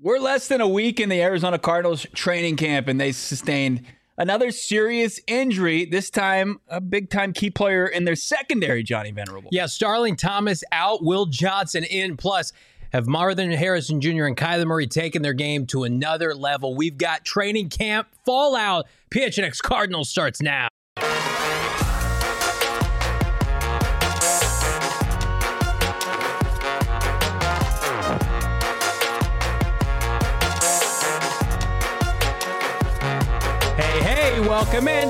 We're less than a week in the Arizona Cardinals training camp, and they sustained another serious injury, this time a big-time key player in their secondary, Johnny Venerable. Yeah, Starling Thomas out, Will Johnson in, plus have Marvin Harrison Jr. and Kyler Murray taken their game to another level. We've got training camp fallout. PHNX Cardinals starts now. Welcome in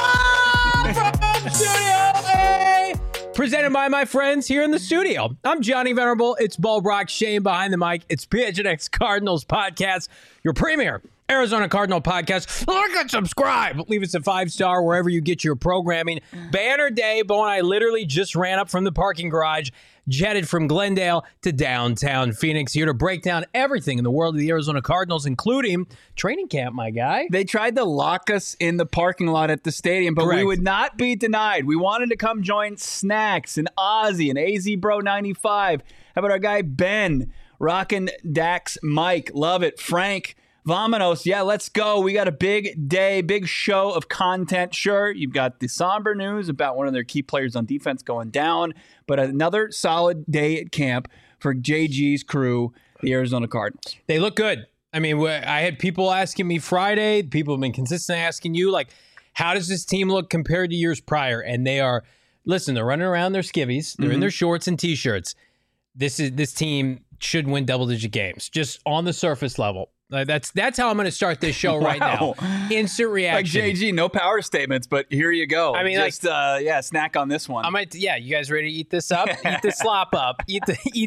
from Studio A, presented by my friends here in the studio. I'm Johnny Venerable. It's Bo Brock, Shane behind the mic. It's PHNX Cardinals podcast, your premier Arizona Cardinal podcast. Like and subscribe. Leave us a 5-star wherever you get your programming. Banner day. Bo and I literally just ran up from the parking garage, jetted from Glendale to downtown Phoenix, here to break down everything in the world of the Arizona Cardinals, including training camp, my guy. They tried to lock us in the parking lot at the stadium, but Correct. We would not be denied. We wanted to come join Snacks and Ozzy and AZ Bro 95. How about our guy Ben, rocking Dax Mike? Love it. Frank Vominos, yeah, let's go. We got a big day, big show of content. Sure, you've got the somber news about one of their key players on defense going down, but another solid day at camp for JG's crew, the Arizona Cardinals. They look good. I mean, I had people asking me Friday. People have been consistently asking you, like, how does this team look compared to years prior? And they are, listen, they're running around their skivvies. They're in their shorts and T-shirts. This team should win double-digit games, just on the surface level. That's how I'm going to start this show right now. Instant reaction. Like JG, no power statements, but here you go. I mean, just snack on this one. You guys ready to eat this up? Eat the slop up. Eat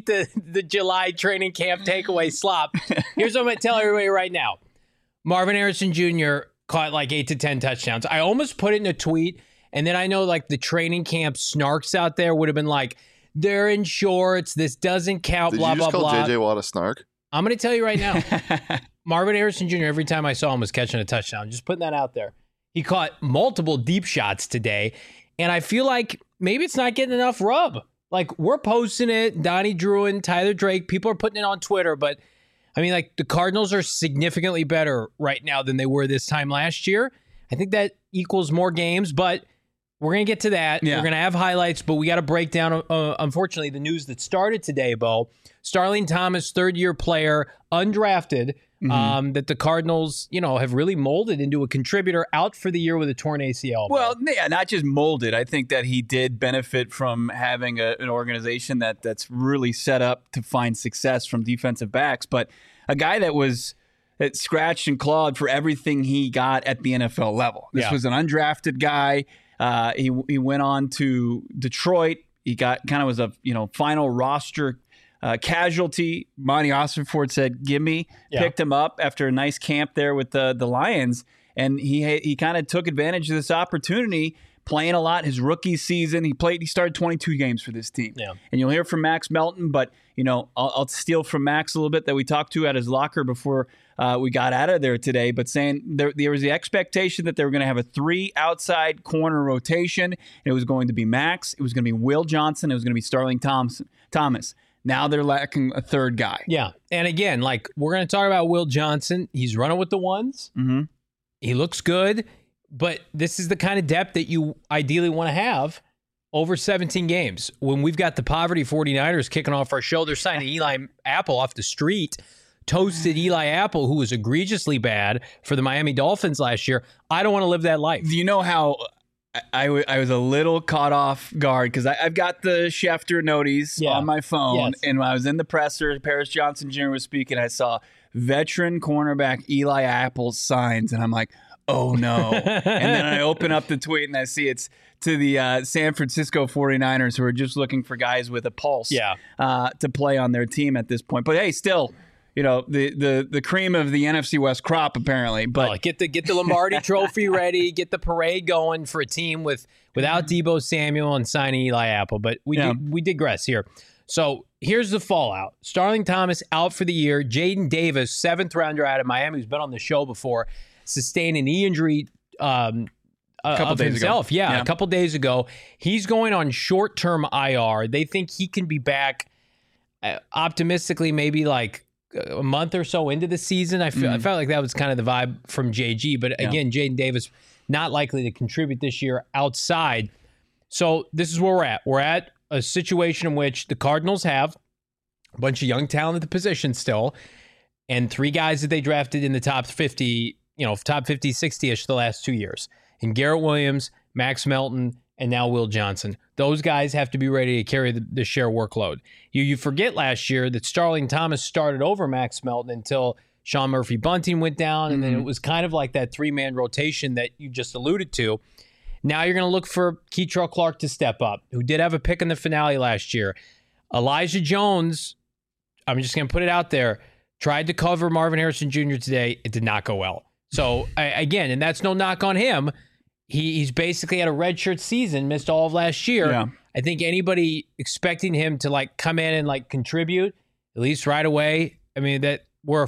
the July training camp takeaway slop. Here's what I'm going to tell everybody right now. Marvin Harrison Jr. caught like 8 to 10 touchdowns. I almost put it in a tweet, and then I know like the training camp snarks out there would have been like, they're in shorts. This doesn't count. Did blah you just blah call blah. JJ Watt a snark? I'm going to tell you right now. Marvin Harrison Jr., every time I saw him, was catching a touchdown. Just putting that out there. He caught multiple deep shots today, and I feel like maybe it's not getting enough rub. Like, we're posting it, Donnie Druin, Tyler Drake, people are putting it on Twitter, but I mean, like, the Cardinals are significantly better right now than they were this time last year. I think that equals more games, but we're going to get to that. Yeah. We're going to have highlights, but we got to break down, unfortunately, the news that started today, Bo. Starling Thomas, third-year player, undrafted, that the Cardinals, have really molded into a contributor, out for the year with a torn ACL. Well, yeah, not just molded. I think that he did benefit from having an organization that's really set up to find success from defensive backs, but a guy that scratched and clawed for everything he got at the NFL level. This was an undrafted guy. He went on to Detroit. He got was a final roster casualty. Monty Ossenford said, "Gimme." Picked him up after a nice camp there with the Lions, and he kind of took advantage of this opportunity, playing a lot his rookie season. He started 22 games for this team. Yeah. And you'll hear from Max Melton, but I'll steal from Max a little bit that we talked to at his locker before we got out of there today, but saying there was the expectation that they were going to have a 3 outside corner rotation. It was going to be Max, it was going to be Will Johnson, it was going to be Starling Thomas. Now they're lacking a third guy. Yeah. And again, like, we're going to talk about Will Johnson. He's running with the ones. Mm-hmm. He looks good, but this is the kind of depth that you ideally want to have over 17 games. When we've got the poverty 49ers kicking off our show, they're signing Eli Apple off the street. Toasted Eli Apple, who was egregiously bad for the Miami Dolphins last year. I don't want to live that life. Do you know how I was a little caught off guard because I've got the Schefter noties on my phone, Yes. and when I was in the presser, Paris Johnson Jr. was speaking, I saw veteran cornerback Eli Apple's signs, and I'm like, oh no. And then I open up the tweet and I see it's to the San Francisco 49ers, who are just looking for guys with a pulse to play on their team at this point. But hey, still, the cream of the NFC West crop, apparently. But get the Lombardi Trophy ready, get the parade going for a team without Deebo Samuel and signing Eli Apple. But we digress here. So here's the fallout. Starling Thomas out for the year. Jaden Davis, 7th rounder out of Miami, who's been on the show before, sustained a knee injury a couple days himself. Ago. A couple days ago. He's going on short-term IR. They think he can be back optimistically maybe like a month or so into the season. I felt like that was kind of the vibe from JG. But again, Jaden Davis not likely to contribute this year outside. So this is where we're at. We're at a situation in which the Cardinals have a bunch of young talent at the position still, and 3 guys that they drafted in the top 50, top 50, 60-ish the last 2 years. And Garrett Williams, Max Melton, and now Will Johnson. Those guys have to be ready to carry the share workload. You forget last year that Starling Thomas started over Max Melton until Sean Murphy-Bunting went down, and then it was kind of like that 3-man rotation that you just alluded to. Now you're going to look for Keitrell Clark to step up, who did have a pick in the finale last year. Elijah Jones, I'm just going to put it out there, tried to cover Marvin Harrison Jr. today. It did not go well. So, again, and that's no knock on him. He's basically had a redshirt season, missed all of last year. Yeah. I think anybody expecting him to come in and contribute at least right away. I mean, that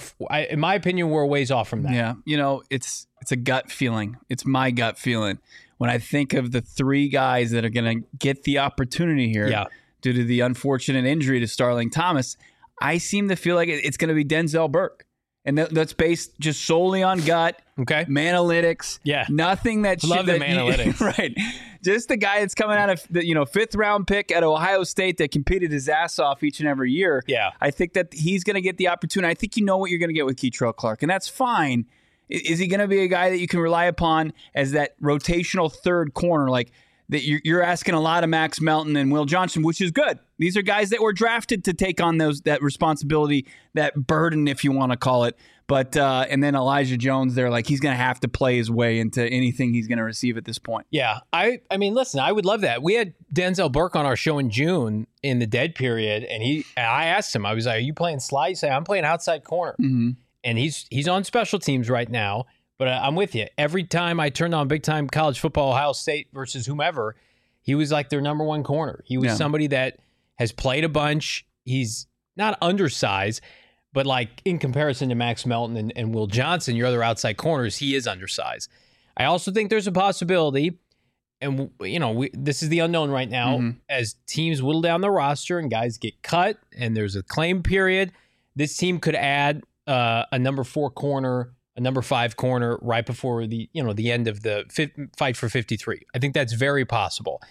in my opinion, we're a ways off from that. Yeah, it's a gut feeling. It's my gut feeling when I think of the 3 guys that are going to get the opportunity here due to the unfortunate injury to Starling Thomas. I seem to feel like it's going to be Denzel Burke. And that's based just solely on gut, analytics. Yeah, nothing that love them analytics, right? Just the guy that's coming out of the 5th round pick at Ohio State that competed his ass off each and every year. Yeah, I think that he's going to get the opportunity. I think what you're going to get with Keitrell Clark, and that's fine. Is he going to be a guy that you can rely upon as that rotational third corner, like? That you're asking a lot of Max Melton and Will Johnson, which is good. These are guys that were drafted to take on that responsibility, that burden, if you want to call it. But and then Elijah Jones, they're like he's going to have to play his way into anything he's going to receive at this point. Yeah, I mean, listen, I would love that. We had Denzel Burke on our show in June in the dead period, and I asked him, I was like, "Are you playing slot?" He said, "I'm playing outside corner," and he's on special teams right now. But I'm with you. Every time I turned on big time college football, Ohio State versus whomever, he was like their number 1 corner. He was somebody that has played a bunch. He's not undersized, but in comparison to Max Melton and Will Johnson, your other outside corners, he is undersized. I also think there's a possibility, and this is the unknown right now, as teams whittle down the roster and guys get cut and there's a claim period, this team could add a number 4 corner, a number 5 corner right before the end of the fight for 53. I think that's very possible.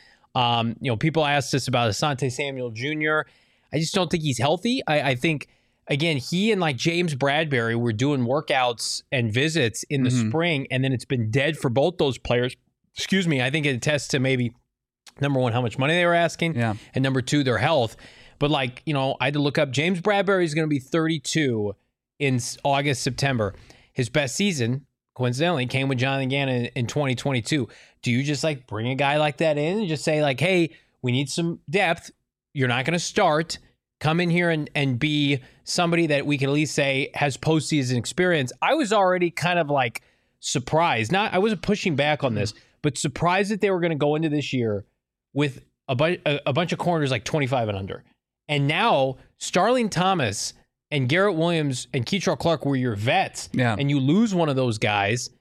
People asked us about Asante Samuel Jr. I just don't think he's healthy. I think, again, he and James Bradbury were doing workouts and visits in the spring, and then it's been dead for both those players. Excuse me. I think it attests to maybe, number 1, how much money they were asking, and number 2, their health. But I had to look up. James Bradbury is going to be 32 in August, September. His best season, coincidentally, came with Jonathan Gannon in 2022. Do you just bring a guy like that in and just say hey, we need some depth. You're not going to start. Come in here and be somebody that we can at least say has postseason experience. I was already kind of surprised. I wasn't pushing back on this, but surprised that they were going to go into this year with a bunch of corners 25 and under. And now Starling Thomas and Garrett Williams and Keitrell Clark were your vets, and you lose one of those guys.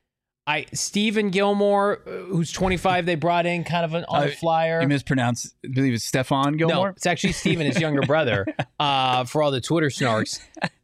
Stephen Gilmore, who's 25, they brought in kind of on a flyer. You mispronounced, I believe it's Stephon Gilmore? No, it's actually Stephen, his younger brother, for all the Twitter snarks.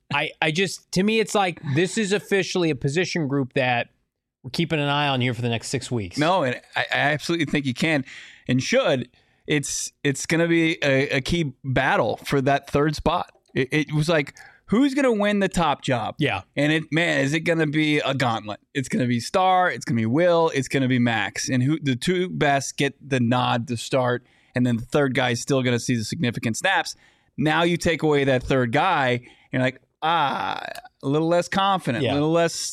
To me, it's this is officially a position group that we're keeping an eye on here for the next 6 weeks. No, and I absolutely think you can and should. It's going to be a key battle for that 3rd spot. It was who's going to win the top job? Yeah. And is it going to be a gauntlet? It's going to be Star, it's going to be Will, it's going to be Max. And who the 2 best get the nod to start, and then the 3rd guy is still going to see the significant snaps. Now you take away that 3rd guy, and a little less confident, a little less,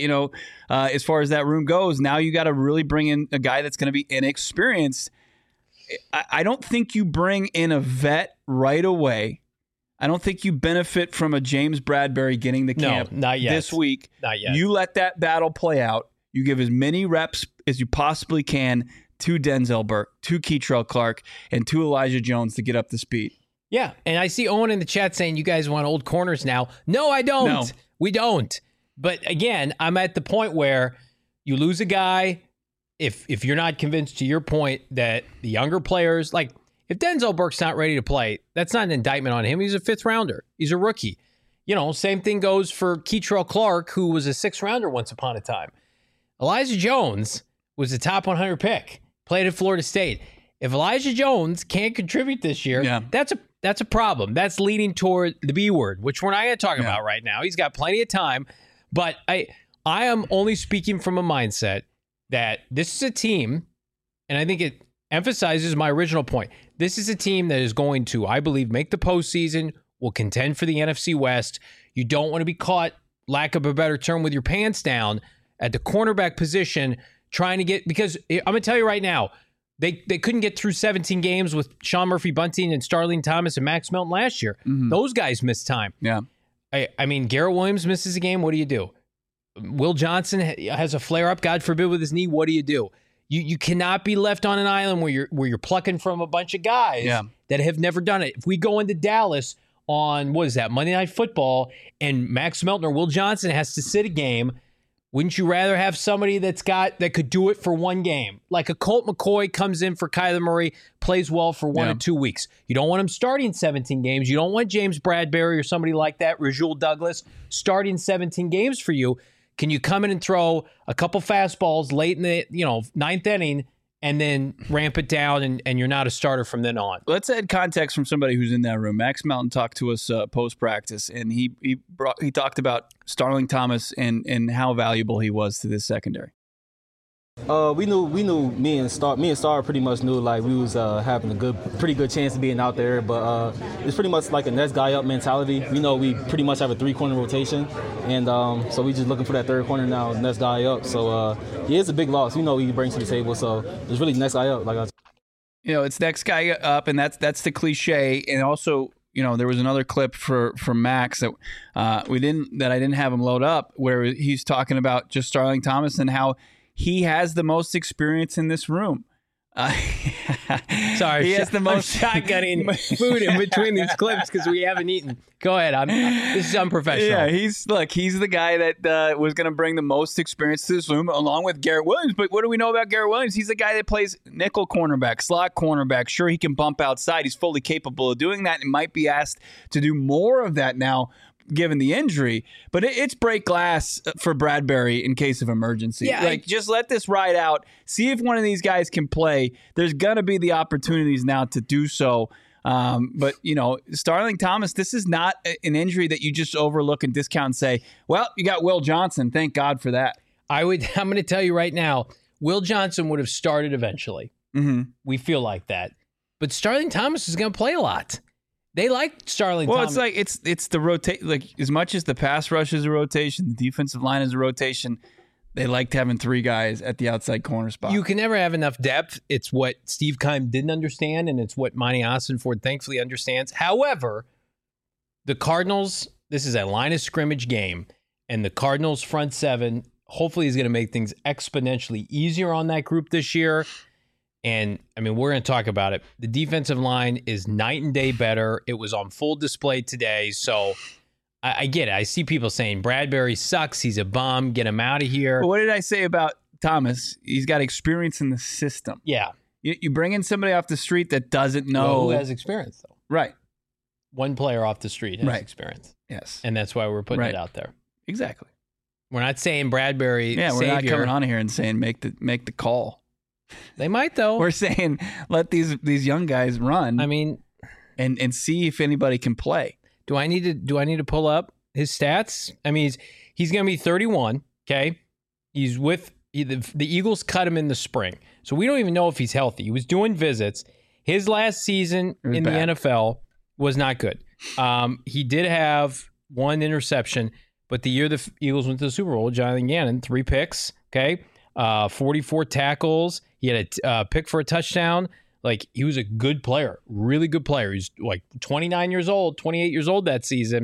as far as that room goes. Now you got to really bring in a guy that's going to be inexperienced. I don't think you bring in a vet right away. I don't think you benefit from a James Bradbury getting the camp not yet. This week. Not yet. You let that battle play out. You give as many reps as you possibly can to Denzel Burke, to Keitrell Clark, and to Elijah Jones to get up to speed. Yeah, and I see Owen in the chat saying you guys want old corners now. No, I don't. No. We don't. But again, I'm at the point where you lose a guy. If you're not convinced, to your point, that the younger players, if Denzel Burke's not ready to play, that's not an indictment on him. He's a 5th rounder. He's a rookie. Same thing goes for Keitrell Clark, who was a 6th-rounder once upon a time. Elijah Jones was a top 100 pick, played at Florida State. If Elijah Jones can't contribute this year, that's a problem. That's leading toward the B word, which we're not going to talk about right now. He's got plenty of time, but I am only speaking from a mindset that this is a team, and I think it emphasizes my original point. This is a team that is going to, I believe, make the postseason, will contend for the NFC West. You don't want to be caught, lack of a better term, with your pants down at the cornerback position trying to get, because I'm going to tell you right now, they couldn't get through 17 games with Sean Murphy-Bunting and Starling Thomas and Max Melton last year. Mm-hmm. Those guys missed time. Yeah. I mean, Garrett Williams misses a game. What do you do? Will Johnson has a flare-up, God forbid, with his knee. What do you do? You cannot be left on an island where you're plucking from a bunch of guys that have never done it. If we go into Dallas on, Monday Night Football, and Max Melton or Will Johnson has to sit a game, wouldn't you rather have somebody that could do it for one game? Like a Colt McCoy comes in for Kyler Murray, plays well for 1 or 2 weeks. You don't want him starting 17 games. You don't want James Bradbury or somebody like that, Rasul Douglas, starting 17 games for you. Can you come in and throw a couple fastballs late in the 9th inning and then ramp it down and you're not a starter from then on? Let's add context from somebody who's in that room. Max Melton talked to us post-practice, and he talked about Starling Thomas and how valuable he was to this secondary. We knew me and Star pretty much knew like we was having a pretty good chance of being out there, but it's pretty much like a next guy up mentality. We know we pretty much have a 3-corner rotation, and so we just looking for that 3rd corner now, next guy up. So he is a big loss. We know he brings to the table, so it's really next guy up. It's next guy up, and that's the cliche. And also, there was another clip from Max that I didn't have him load up, where he's talking about just Starling Thomas and how he has the most experience in this room. Sorry, he has the most shotgunning food in between these clips because we haven't eaten. Go ahead. This is unprofessional. Yeah, he's the guy that was going to bring the most experience to this room, along with Garrett Williams. But what do we know about Garrett Williams? He's the guy that plays nickel cornerback, slot cornerback. Sure, he can bump outside. He's fully capable of doing that and might be asked to do more of that now, given the injury, but it's break glass for Bradbury in case of emergency. Yeah, just let this ride out. See if one of these guys can play. There's gonna be the opportunities now to do so. But Starling Thomas, this is not an injury that you just overlook and discount and say, well, you got Will Johnson. Thank God for that. I'm going to tell you right now, Will Johnson would have started eventually. Mm-hmm. We feel like that, but Starling Thomas is going to play a lot. They like Starling Thomas. Well, it's like it's the rotate. Like, as much as the pass rush is a rotation, the defensive line is a rotation. They liked having 3 guys at the outside corner spot. You can never have enough depth. It's what Steve Keim didn't understand, and it's what Monty Ossenford thankfully understands. However, the Cardinals, this is a line of scrimmage game, and the Cardinals front 7 hopefully is going to make things exponentially easier on that group this year. And, we're going to talk about it. The defensive line is night and day better. It was on full display today. So I get it. I see people saying Bradbury sucks. He's a bum. Get him out of here. But what did I say about Thomas? He's got experience in the system. Yeah. You bring in somebody off the street that doesn't know. Well, who has experience, though? Right. One player off the street has experience. Yes. And that's why we're putting it out there. Exactly. We're not saying Bradbury. Yeah, we're not coming on here and saying make the call. They might, though. We're saying let these young guys run. And see if anybody can play. Do I need to pull up his stats? He's going to be 31. Okay, he's with the Eagles. Cut him in the spring, so we don't even know if he's healthy. He was doing visits. His last season in the NFL was not good. He did have 1 interception, but the year the Eagles went to the Super Bowl, Jonathan Gannon, 3 picks. Okay. 44 tackles. He had a pick for a touchdown. Like, he was a good player, really good player. He's like 28 years old that season.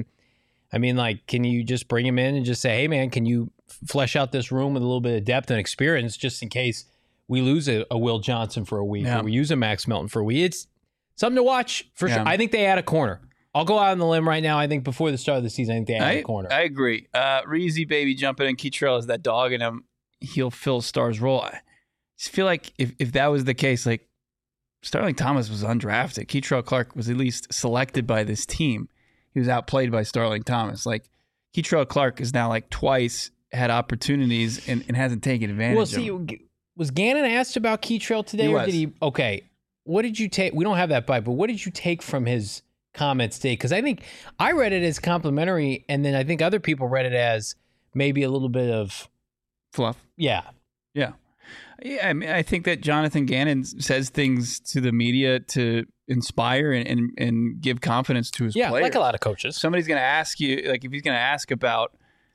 Can you just bring him in and just say, hey, man, can you flesh out this room with a little bit of depth and experience just in case we lose a Will Johnson for a week or we use a Max Melton for a week? It's something to watch for sure. I think they add a corner. I'll go out on the limb right now. I think before the start of the season, I think they add a corner. I agree. Reezy baby jumping in. Keitrell has that dog in him. He'll fill Star's role. I just feel like if that was the case, like, Starling Thomas was undrafted. Keitrell Clark was at least selected by this team. he was outplayed by Starling Thomas. Like, Keitrell Clark is now like twice had opportunities and hasn't taken advantage of them. Was Gannon asked about Keitrell today? He or was. did he? Okay. What did you take? We don't have that bite, but what did you take from his comments today? Because I think I read it as complimentary, and then I think other people read it as maybe a little bit of Fluff. Yeah. Yeah. Yeah, I mean, I think that Jonathan Gannon says things to the media to inspire and give confidence to his players. like a lot of coaches. Somebody's going to ask you, like, if he's going to ask about,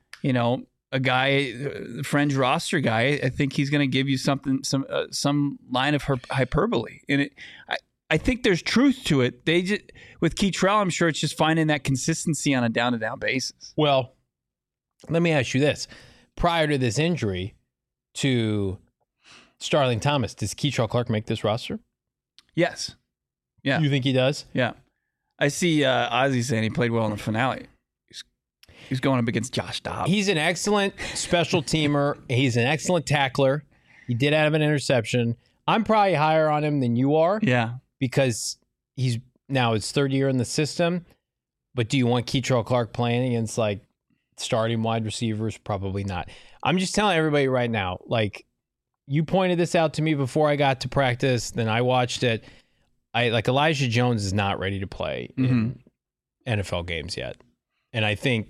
a guy, the Fringe roster guy, I think he's going to give you some line of hyperbole. And I think there's truth to it. They just, with Keitrell, I'm sure it's just finding that consistency on a down-to-down basis. Well, let me ask you this. Prior to this injury to Starling Thomas, does Keitrell Clark make this roster? Yes. Yeah. You think he does? Yeah. I see Ozzy saying he played well in the finale. He's going up against Josh Dobbs. He's an excellent special teamer. He's an excellent tackler. He did have an interception. I'm probably higher on him than you are. Yeah. Because he's now his third year in the system. But do you want Keitrell Clark playing against like starting wide receivers? Probably not. I'm just telling everybody right now, like, you pointed this out to me before I got to practice, then I watched it. Elijah Jones is not ready to play in NFL games yet. And I think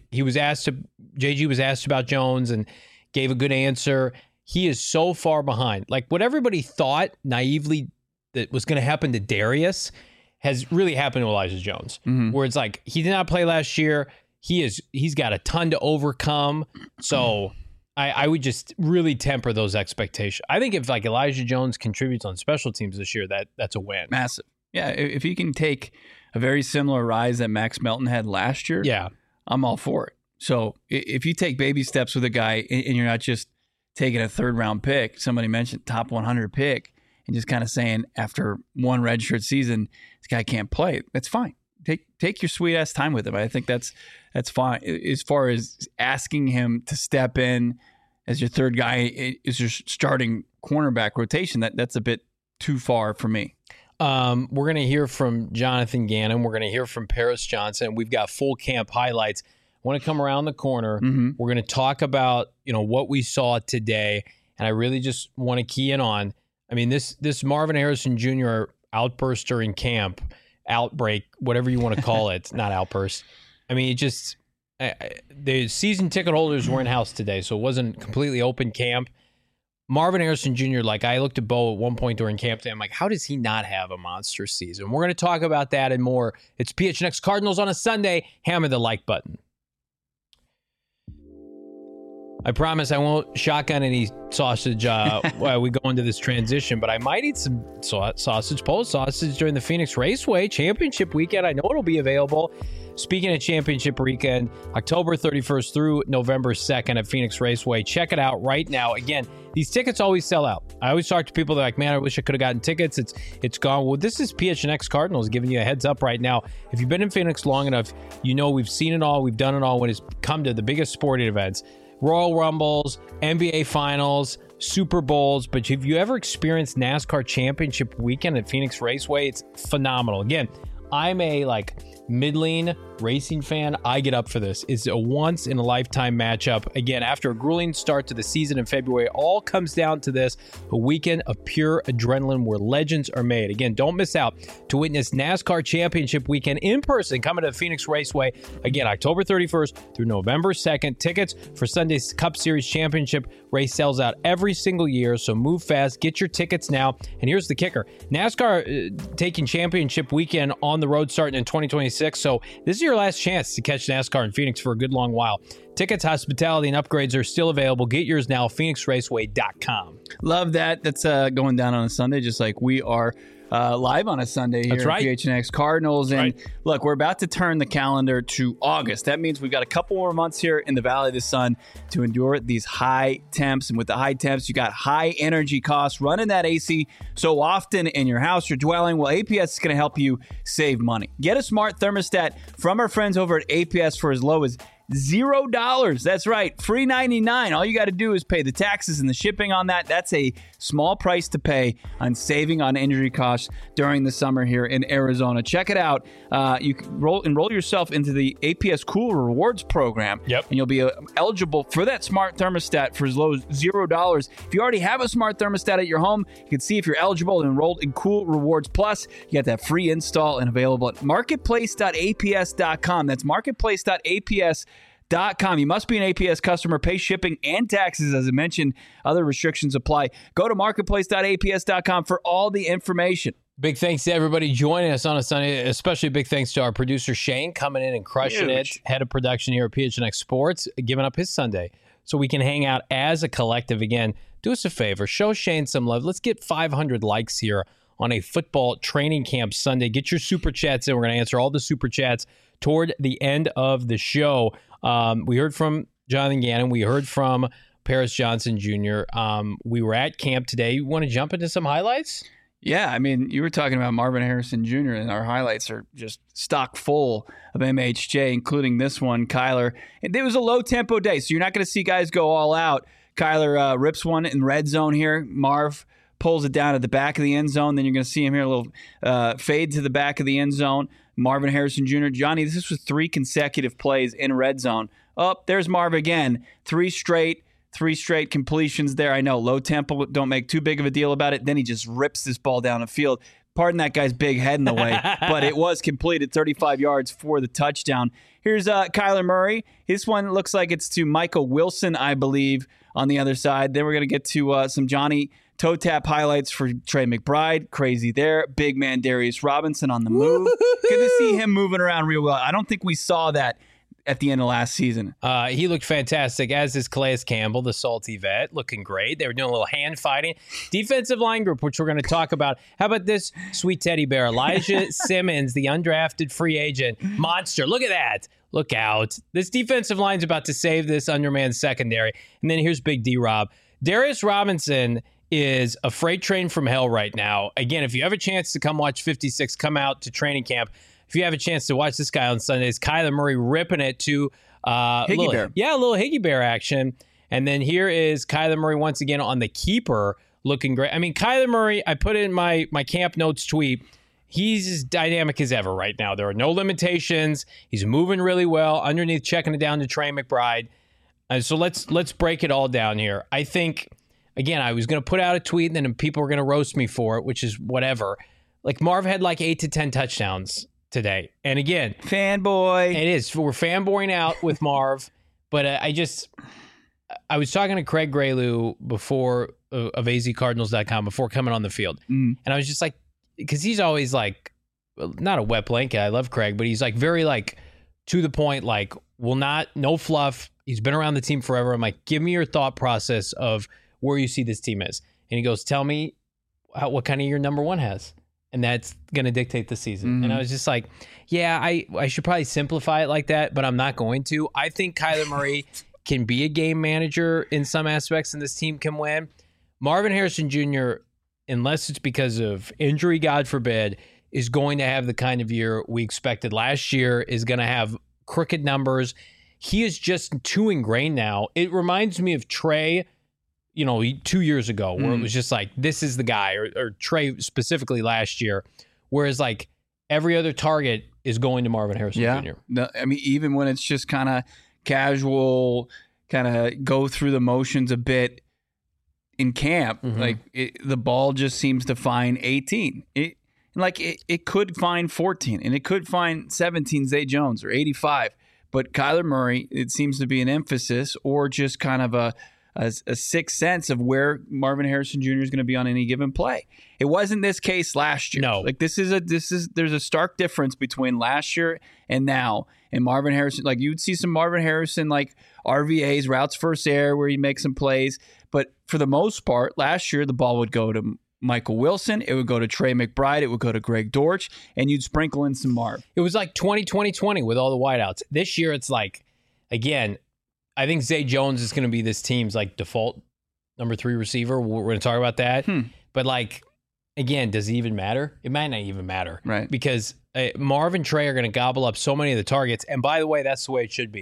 JG was asked about Jones and gave a good answer. He is so far behind. Like, what everybody thought naively that was going to happen to Darius has really happened to Elijah Jones, where it's like, he did not play last year. He's got a ton to overcome. So I would just really temper those expectations. I think if like Elijah Jones contributes on special teams this year, that's a win. Massive. Yeah. If he can take a very similar rise that Max Melton had last year, yeah, I'm all for it. So if you take baby steps with a guy and you're not just taking a third round pick, somebody mentioned top 100 pick, and just kind of saying after one redshirt season, this guy can't play, that's fine. Take your sweet ass time with him. I think that's fine. As far as asking him to step in as your third guy is your starting cornerback rotation, that's a bit too far for me. We're going to hear from Jonathan Gannon. We're going to hear from Paris Johnson. We've got full camp highlights. I want to come around the corner. We're going to talk about what we saw today, and I really just want to key in on. I mean, this Marvin Harrison Jr. outburst during camp, outbreak, whatever you want to call it, not outburst. I mean, it just the season ticket holders were in house today, so it wasn't completely open camp. Marvin Harrison Jr., like, I looked at Bo at one point during camp day. I'm like, how does he not have a monster season? We're going to talk about that and more. It's PHNX Cardinals on a Sunday. Hammer the like button. I promise I won't shotgun any sausage while we go into this transition, but I might eat some sausage, Polish sausage, during the Phoenix Raceway Championship weekend. I know it'll be available. Speaking of Championship weekend, October 31st through November 2nd at Phoenix Raceway. Check it out right now. Again, these tickets always sell out. I always talk to people that are like, man, I wish I could have gotten tickets. It's gone. Well, this is PHNX Cardinals giving you a heads up right now. If you've been in Phoenix long enough, we've seen it all. We've done it all when it's come to the biggest sporting events. Royal Rumbles, NBA Finals, Super Bowls. But if you ever experienced NASCAR Championship weekend at Phoenix Raceway, it's phenomenal. Again, I'm a middling racing fan. I get up for this. It's a once-in-a-lifetime matchup. Again, after a grueling start to the season in February, all comes down to this, a weekend of pure adrenaline where legends are made. Again, don't miss out to witness NASCAR Championship weekend in person coming to the Phoenix Raceway. Again, October 31st through November 2nd. Tickets for Sunday's Cup Series Championship race sells out every single year, so move fast. Get your tickets now. And here's the kicker. NASCAR taking championship weekend on the road starting in 2026, so this is your last chance to catch NASCAR in Phoenix for a good long while. Tickets, hospitality, and upgrades are still available. Get yours now, phoenixraceway.com. Love that. That's going down on a Sunday, just like we are live on a Sunday here at PHNX Cardinals. And look, we're about to turn the calendar to August. That means we've got a couple more months here in the Valley of the Sun to endure these high temps. And with the high temps, you got high energy costs running that AC so often in your house or dwelling. Well, APS is going to help you save money. Get a smart thermostat from our friends over at APS for as low as $0. That's right, free 99. All you got to do is pay the taxes and the shipping on that. That's a small price to pay on saving on injury costs during the summer here in Arizona. Check it out. You can enroll yourself into the APS Cool Rewards program. Yep. And you'll be eligible for that smart thermostat for as low as $0. If you already have a smart thermostat at your home, you can see if you're eligible and enrolled in Cool Rewards Plus. You got that free install and available at marketplace.aps.com. That's marketplace.aps.com. You must be an APS customer, pay shipping and taxes. As I mentioned, other restrictions apply. Go to marketplace.aps.com for all the information. Big thanks to everybody joining us on a Sunday, especially big thanks to our producer Shane coming in and crushing it, head of production here at PHNX Sports, giving up his Sunday so we can hang out as a collective again. Do us a favor, show Shane some love. Let's get 500 likes here on a football training camp Sunday. Get your super chats in. We're going to answer all the super chats toward the end of the show. We heard from Jonathan Gannon. We heard from Paris Johnson Jr. We were at camp today. You want to jump into some highlights? Yeah, I mean, you were talking about Marvin Harrison Jr., and our highlights are just stock full of MHJ, including this one, Kyler. And it was a low-tempo day, so you're not going to see guys go all out. Kyler rips one in red zone here. Marv pulls it down at the back of the end zone. Then you're going to see him here, a little fade to the back of the end zone. Marvin Harrison Jr. Johnny, this was 3 consecutive plays in red zone. Oh, there's Marv again. 3 straight completions there. I know, low tempo, don't make too big of a deal about it. Then he just rips this ball down the field. Pardon that guy's big head in the way, but it was completed 35 yards for the touchdown. Here's Kyler Murray. This one looks like it's to Michael Wilson, I believe, on the other side. Then we're going to get to some Johnny toe tap highlights for Trey McBride. Crazy there. Big man Darius Robinson on the move. Good to see him moving around real well. I don't think we saw that at the end of last season. He looked fantastic, as is Calais Campbell, the salty vet, looking great. They were doing a little hand fighting. Defensive line group, which we're going to talk about. How about this sweet teddy bear? Elijah Simmons, the undrafted free agent. Monster. Look at that. Look out. This defensive line's about to save this undermanned secondary. And then here's Big D-Rob. Darius Robinson is a freight train from hell right now. Again, if you have a chance to come watch 56, come out to training camp. If you have a chance to watch this guy on Sundays, Kyler Murray ripping it to Higgy Bear. Yeah, a little Higgy Bear action. And then here is Kyler Murray once again on the keeper, looking great. I mean, Kyler Murray, I put it in my camp notes tweet. He's as dynamic as ever right now. There are no limitations. He's moving really well underneath, checking it down to Trey McBride. So let's break it all down here. I think, again, I was going to put out a tweet and then people were going to roast me for it, which is whatever. Like Marv had like 8 to 10 touchdowns today. And again, fanboy. It is. We're fanboying out with Marv. But I was talking to Craig Graylew before of azcardinals.com before coming on the field. And I was just like, because he's always like, not a wet blanket. I love Craig, but he's like very like to the point, like no fluff. He's been around the team forever. I'm like, give me your thought process of where you see this team is. And he goes, tell me what kind of year number 1 has. And that's going to dictate the season. And I was just like, yeah, I should probably simplify it like that, but I'm not going to. I think Kyler Murray can be a game manager in some aspects, and this team can win. Marvin Harrison Jr., unless it's because of injury, God forbid, is going to have the kind of year we expected last year, is going to have crooked numbers. He is just too ingrained now. It reminds me of Trey, 2 years ago, where it was just like, this is the guy, or Trey specifically last year, whereas like every other target is going to Marvin Harrison Jr. No, I mean, even when it's just kind of casual, kind of go through the motions a bit in camp, like the ball just seems to find 18. It could find 14, and it could find 17 Zay Jones or 85. But Kyler Murray, it seems to be an emphasis or just kind of a sixth sense of where Marvin Harrison Jr. is going to be on any given play. It wasn't this case last year. No. Like there's a stark difference between last year and now. And Marvin Harrison, like you'd see some Marvin Harrison like RVAs, routes first air, where he makes some plays. But for the most part, last year the ball would go to Michael Wilson, it would go to Trey McBride, it would go to Greg Dortch, and you'd sprinkle in some Marv. It was like 2020 with all the wideouts. This year it's like, again, I think Zay Jones is going to be this team's like default number 3 receiver. We're going to talk about that. But like, again, does it even matter? It might not even matter. Right. Because Marv and Trey are going to gobble up so many of the targets. And by the way, that's the way it should be.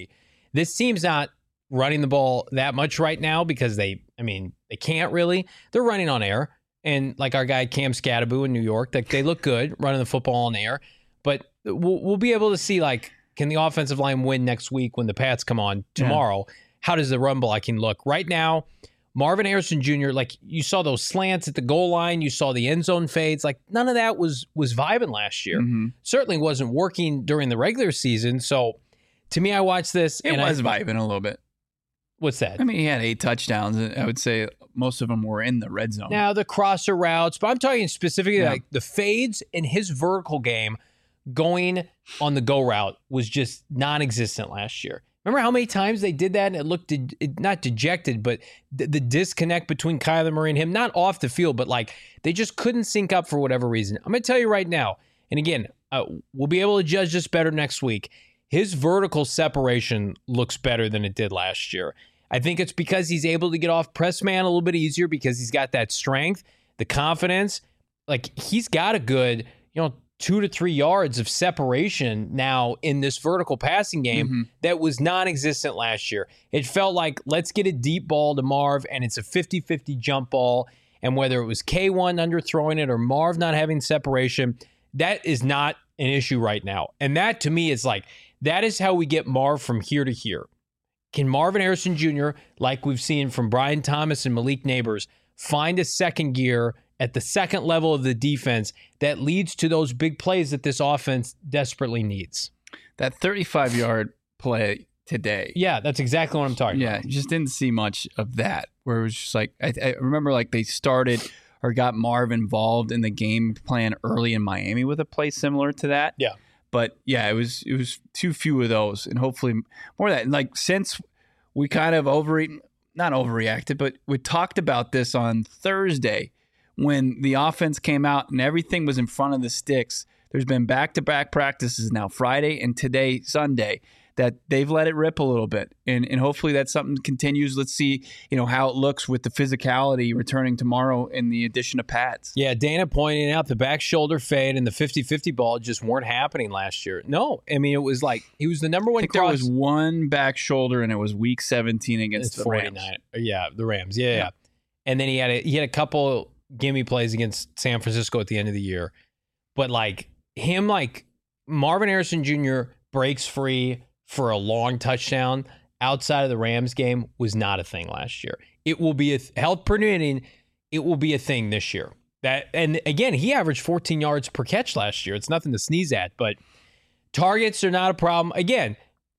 This team's not running the ball that much right now because they can't really. They're running on air. And like our guy Cam Scatterbo in New York, like they look good running the football on air. But we'll be able to see, like, can the offensive line win next week when the Pats come on tomorrow? Yeah. How does the run blocking look? Right now, Marvin Harrison Jr., like you saw those slants at the goal line, you saw the end zone fades. Like none of that was vibing last year. Mm-hmm. Certainly wasn't working during the regular season. So to me, I watched this. It was vibing a little bit. What's that? I mean, he had 8 touchdowns. I would say most of them were in the red zone. Now, the crosser routes, but I'm talking specifically like the fades in his vertical game going on the go route was just non-existent last year. Remember how many times they did that and it looked not dejected, but the disconnect between Kyler Murray and him, not off the field, but like they just couldn't sync up for whatever reason. I'm going to tell you right now, and again, we'll be able to judge this better next week. His vertical separation looks better than it did last year. I think it's because he's able to get off press man a little bit easier because he's got that strength, the confidence. Like he's got a good, 2 to 3 yards of separation now in this vertical passing game that was non-existent last year. It felt like, let's get a deep ball to Marv, and it's a 50-50 jump ball. And whether it was K1 underthrowing it or Marv not having separation, that is not an issue right now. And that, to me, is like, that is how we get Marv from here to here. Can Marvin Harrison Jr., like we've seen from Brian Thomas and Malik Neighbors, find a second gear at the second level of the defense that leads to those big plays that this offense desperately needs? That 35-yard play today. Yeah, that's exactly what I'm talking about. Yeah, you just didn't see much of that, where it was just like, I remember like they started or got Marv involved in the game plan early in Miami with a play similar to that. Yeah. But yeah, it was too few of those, and hopefully more of that. And like since we kind of not overreacted, but we talked about this on Thursday when the offense came out and everything was in front of the sticks. There's been back-to-back practices now, Friday and today, Sunday, that they've let it rip a little bit. And hopefully that something continues. Let's see, how it looks with the physicality returning tomorrow in the addition of pads. Yeah, Dana pointing out the back shoulder fade and the 50-50 ball just weren't happening last year. No, I mean, it was like he was the number one. I think there was one back shoulder, and it was week 17 against the 49. Rams. Yeah, the Rams. Yeah. And then he had a couple gimme plays against San Francisco at the end of the year. But like him, like Marvin Harrison Jr. breaks free for a long touchdown outside of the Rams game was not a thing last year. It will be health permitting. It will be a thing this year. And again, he averaged 14 yards per catch last year. It's nothing to sneeze at, but targets are not a problem. Again,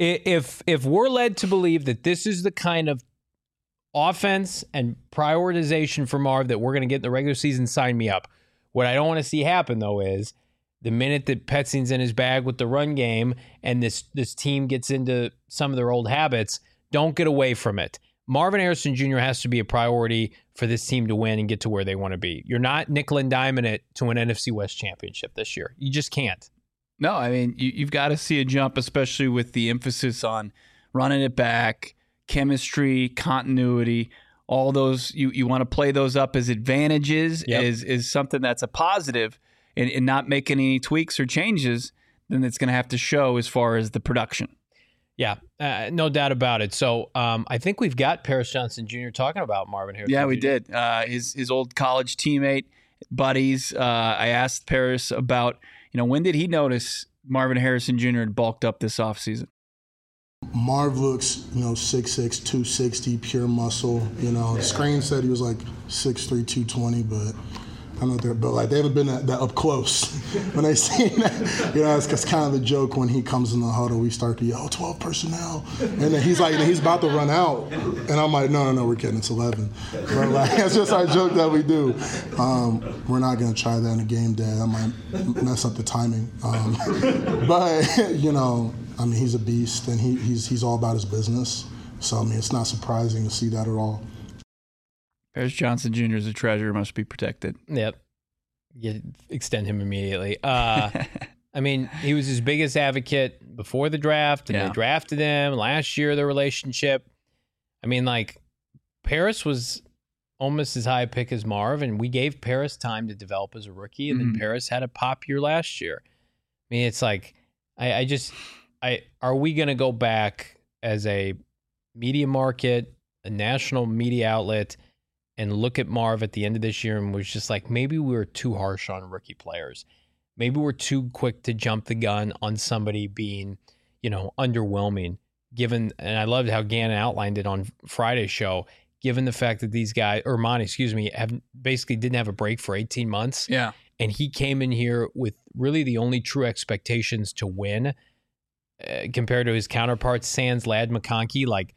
if we're led to believe that this is the kind of offense and prioritization for Marv that we're going to get in the regular season, sign me up. What I don't want to see happen, though, is the minute that Petsing's in his bag with the run game and this team gets into some of their old habits, don't get away from it. Marvin Harrison Jr. has to be a priority for this team to win and get to where they want to be. You're not nickel and diming it to an NFC West championship this year. You just can't. No, I mean, you've got to see a jump, especially with the emphasis on running it back, chemistry, continuity, all those. You want to play those up as advantages, is something that's a positive. And not making any tweaks or changes, then it's going to have to show as far as the production. Yeah, no doubt about it. So I think we've got Paris Johnson Jr. talking about Marvin Harrison. Yeah, we Jr. did. His old college teammate, buddies. I asked Paris about, when did he notice Marvin Harrison Jr. had bulked up this offseason? Marv looks, 6'6", 260, pure muscle. The screen said he was like 6'3", 220, but I don't know they're built like they haven't been that up close when they seen that. It's kind of the joke when he comes in the huddle. We start to yell 12 personnel, and then he's like, he's about to run out, and I'm like, no, we're kidding, it's 11. But like, it's just our joke that we do. We're not gonna try that in a game day. That might mess up the timing. But he's a beast, and he's all about his business. So it's not surprising to see that at all. Paris Johnson Jr. is a treasure, must be protected. Yep. You extend him immediately. He was his biggest advocate before the draft, and they drafted him last year, the relationship. Paris was almost as high a pick as Marv, and we gave Paris time to develop as a rookie, and then Paris had a pop year last year. It's like, are we going to go back as a media market, a national media outlet, and look at Marv at the end of this year and was just like, maybe we were too harsh on rookie players. Maybe we're too quick to jump the gun on somebody being, underwhelming, given, and I loved how Gannon outlined it on Friday's show, given the fact that these guys, or Monty, basically didn't have a break for 18 months. Yeah. And he came in here with really the only true expectations to win compared to his counterparts, sans Ladd McConkey. Like,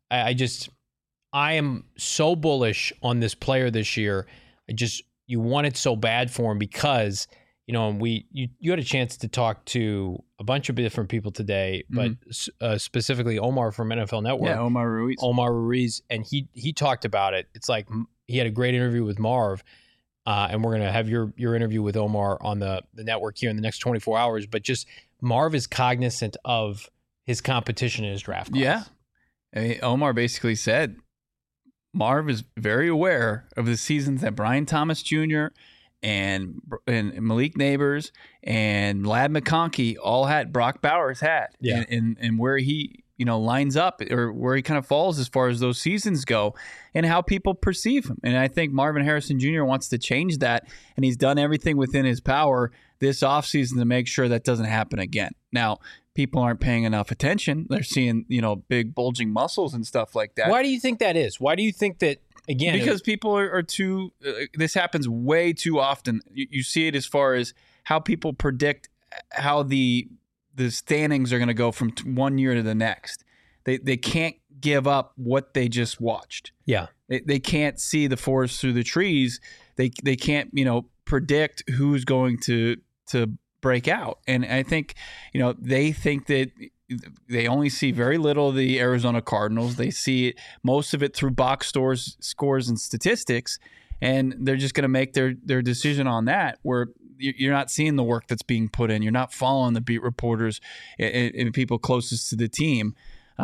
I am so bullish on this player this year. You want it so bad for him because, you had a chance to talk to a bunch of different people today, but specifically Omar from NFL Network. Yeah, Omar Ruiz. And he talked about it. It's like he had a great interview with Marv, and we're going to have your interview with Omar on the network here in the next 24 hours. But just Marv is cognizant of his competition in his draft class. Yeah. I mean, Omar basically said Marv is very aware of the seasons that Brian Thomas Jr. and Malik Neighbors and Ladd McConkey all had, Brock Bowers had. Yeah. And where he, lines up or where he kind of falls as far as those seasons go and how people perceive him. And I think Marvin Harrison Jr. wants to change that, and he's done everything within his power this offseason to make sure that doesn't happen again. Now, people aren't paying enough attention. They're seeing, big bulging muscles and stuff like that. Why do you think that is? Why do you think that, again? Because people are too, this happens way too often. You see it as far as how people predict how the standings are going to go from one year to the next. They can't give up what they just watched. Yeah. They can't see the forest through the trees. They can't, predict who's going to break out. And I think, they think that they only see very little of the Arizona Cardinals. They see it, most of it through box scores and statistics, and they're just going to make their decision on that, where you're not seeing the work that's being put in. You're not following the beat reporters and people closest to the team.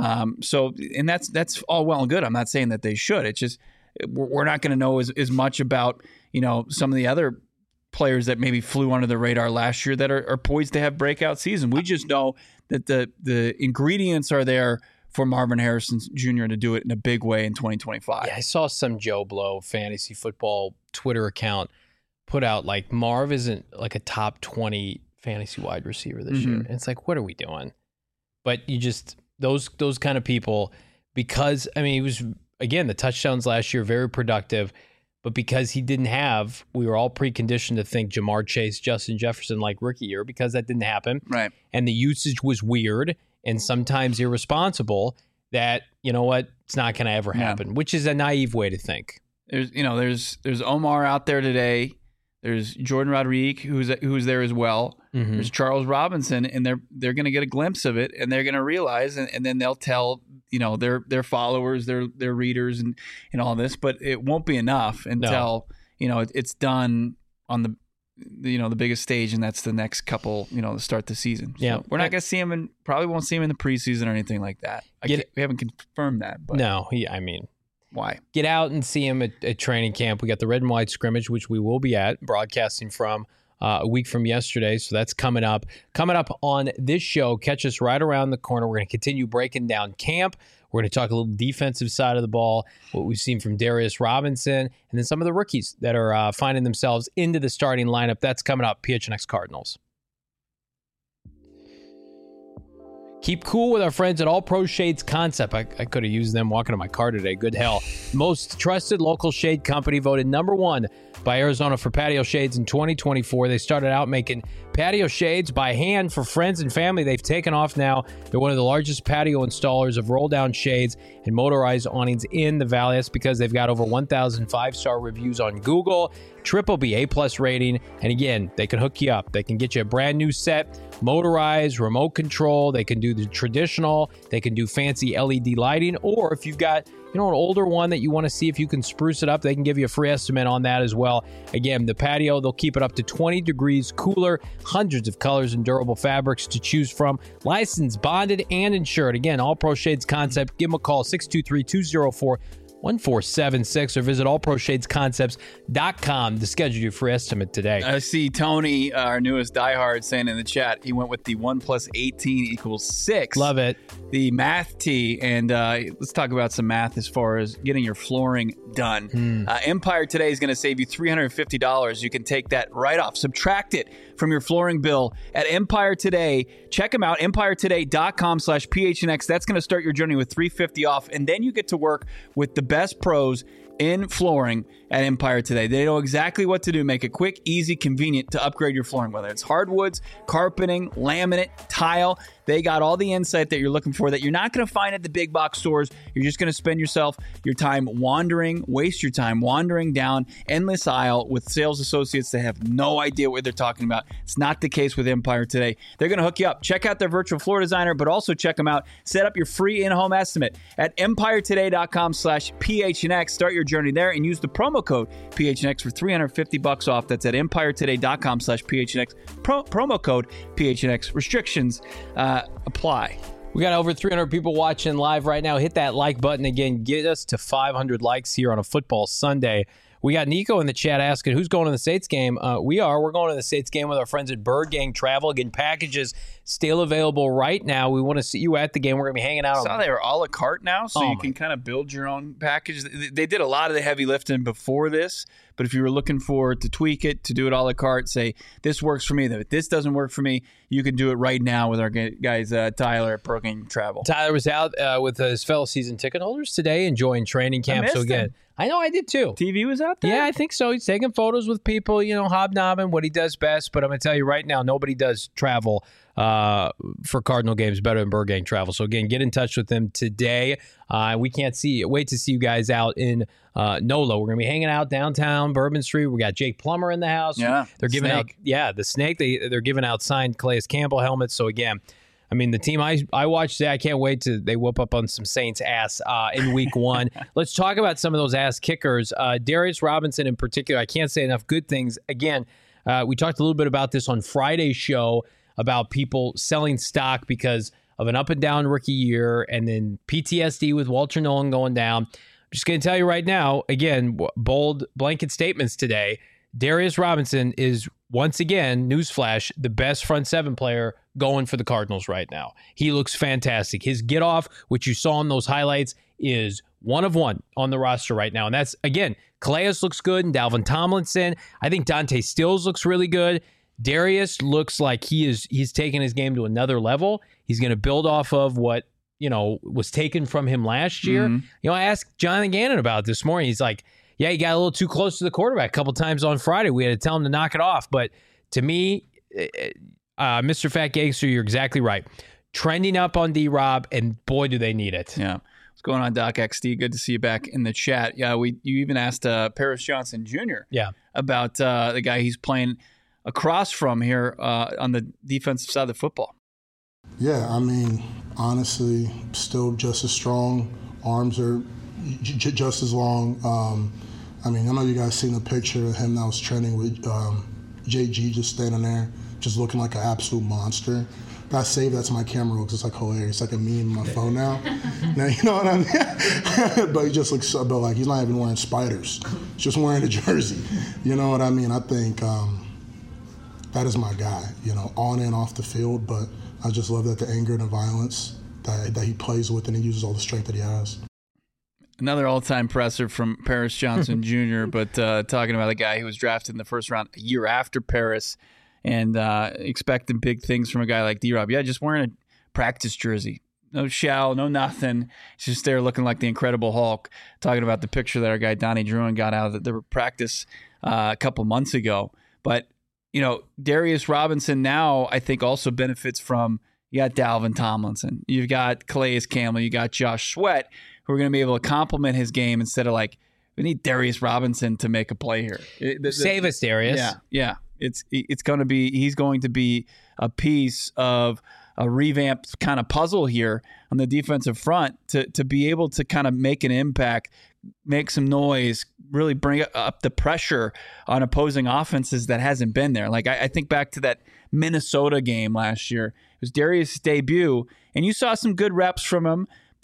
And that's all well and good. I'm not saying that they should. It's just we're not going to know as much about, some of the other players that maybe flew under the radar last year that are poised to have breakout season. We just know that the ingredients are there for Marvin Harrison Jr. to do it in a big way in 2025. Yeah, I saw some Joe Blow fantasy football Twitter account put out like Marv isn't like a top 20 fantasy wide receiver this year. And it's like, what are we doing? But you just those kind of people, because he was, again, the touchdowns last year, very productive. But because he didn't have, we were all preconditioned to think Jamar Chase, Justin Jefferson like rookie year, because that didn't happen. Right. And the usage was weird and sometimes irresponsible, that, it's not going to ever happen, which is a naive way to think. There's Omar out there today. There's Jordan Rodriguez, who's there as well. Mm-hmm. There's Charles Robinson, and they're going to get a glimpse of it, and they're going to realize, and then they'll tell their followers, their readers, and all this. But it won't be enough until it's done on the biggest stage, and that's the next couple to start the season. So yeah, we're not going to see him, and probably won't see him in the preseason or anything like that. We haven't confirmed that. But no, why? Get out and see him at training camp. We got the red and white scrimmage, which we will be at, broadcasting from a week from yesterday. So that's coming up. Coming up on this show, catch us right around the corner. We're going to continue breaking down camp. We're going to talk a little defensive side of the ball, what we've seen from Darius Robinson, and then some of the rookies that are finding themselves into the starting lineup. That's coming up. PHNX Cardinals. Keep cool with our friends at All Pro Shades Concept. I could have used them walking to my car today. Good hell. Most trusted local shade company, voted #1 by Arizona for patio shades in 2024. They started out making patio shades by hand for friends and family. They've taken off now. They're one of the largest patio installers of roll-down shades and motorized awnings in the Valley. That's because they've got over 1,000 5-star reviews on Google, BBB A+ rating, and again, they can hook you up. They can get you a brand new set, motorized, remote control. They can do the traditional. They can do fancy LED lighting, or if you've got an older one that you want to see if you can spruce it up, they can give you a free estimate on that as well. Again, the patio, they'll keep it up to 20 degrees cooler, hundreds of colors and durable fabrics to choose from, licensed, bonded, and insured. Again, All Pro Shades Concept. Give them a call, 623-204 1476 or visit allproshadesconcepts.com to schedule your free estimate today. I see Tony, our newest diehard, saying in the chat he went with the 1 + 18 = 6. Love it. The math tee, and let's talk about some math as far as getting your flooring done. Empire Today is going to save you $350. You can take that right off, subtract it from your flooring bill at Empire Today. Check them out, empiretoday.com/PHNX. That's going to start your journey with $350 off, and then you get to work with the best pros in flooring at Empire Today. They know exactly what to do. Make it quick, easy, convenient to upgrade your flooring, whether it's hardwoods, carpeting, laminate, tile. They got all the insight that you're looking for that you're not going to find at the big box stores. You're just going to spend your time waste your time wandering down endless aisle with sales associates that have no idea what they're talking about. It's not the case with Empire Today. They're going to hook you up. Check out their virtual floor designer, but also check them out. Set up your free in-home estimate at empiretoday.com/PHNX. Start your journey there and use the promo code PHNX for $350 off. That's at empiretoday.com/PHNX. Promo code PHNX. Restrictions apply. We got over 300 people watching live right now. Hit that like button again. Get us to 500 likes here on a football Sunday. We got Nico in the chat asking who's going to the States game. We're going to the States game with our friends at Bird Gang Travel. Again, packages still available right now. We want to see you at the game. We're going to be hanging out. I saw they were a la carte now, so you can kind of build your own package. They did a lot of the heavy lifting before this, but if you were looking to tweak it, to do it a la carte, say, this works for me, if this doesn't work for me, you can do it right now with our guys, Tyler at Bird Gang Travel. Tyler was out with his fellow season ticket holders today enjoying training camp. So again, I know I did too. TV was out there? Yeah, I think so. He's taking photos with people, hobnobbing, what he does best. But I'm going to tell you right now, nobody does travel for Cardinal games better than Bird Gang Travel. So again, get in touch with them today. We can't wait to see you guys out in NOLA. We're going to be hanging out downtown Bourbon Street. We got Jake Plummer in the house. Yeah, they're giving out the Snake. They're giving out signed Calais Campbell helmets. So again, I mean, the team I watched today, I can't wait they whoop up on some Saints ass in week 1. Let's talk about some of those ass kickers. Darius Robinson in particular, I can't say enough good things. Again, we talked a little bit about this on Friday's show about people selling stock because of an up and down rookie year and then PTSD with Walter Nolan going down. I'm just going to tell you right now, again, bold blanket statements today. Darius Robinson is, once again, newsflash, the best front seven player going for the Cardinals right now. He looks fantastic. His get off, which you saw in those highlights, is one of one on the roster right now. And that's, again, Calais looks good and Dalvin Tomlinson. I think Dante Stills looks really good. Darius looks like he's taking his game to another level. He's going to build off of what, was taken from him last year. Mm-hmm. I asked Jonathan Gannon about it this morning. He's like, yeah, he got a little too close to the quarterback a couple times on Friday. We had to tell him to knock it off. But to me, Mr. Fat Gangster, you're exactly right. Trending up on D-Rob, and boy, do they need it. Yeah. What's going on, Doc XD? Good to see you back in the chat. Yeah, you even asked Paris Johnson Jr. About the guy he's playing across from here on the defensive side of the football. Yeah, I mean, honestly, still just as strong. Arms are just as long. I know you guys seen a picture of him that was training with JG just standing there, just looking like an absolute monster. I saved that to my camera roll because it's like hilarious. It's like a meme on my phone now. Now, you know what I mean? But he just looks so, but like he's not even wearing spiders. He's just wearing a jersey. You know what I mean? I think that is my guy, on and off the field. But I just love that the anger and the violence that he plays with, and he uses all the strength that he has. Another all-time presser from Paris Johnson Jr., but talking about a guy who was drafted in the first round a year after Paris and expecting big things from a guy like D-Rob. Yeah, just wearing a practice jersey. No shell, no nothing. He's just there looking like the Incredible Hulk, talking about the picture that our guy Donnie Druin got out of the practice a couple months ago. But, Darius Robinson now I think also benefits from, you got Dalvin Tomlinson, you've got Calais Campbell, you got Josh Sweat, who are going to be able to complement his game instead of like, we need Darius Robinson to make a play here. Save us, Darius. Yeah. It's going to be, he's going to be a piece of a revamped kind of puzzle here on the defensive front to be able to kind of make an impact, make some noise, really bring up the pressure on opposing offenses that hasn't been there. Like I think back to that Minnesota game last year. It was Darius' debut, and you saw some good reps from him, but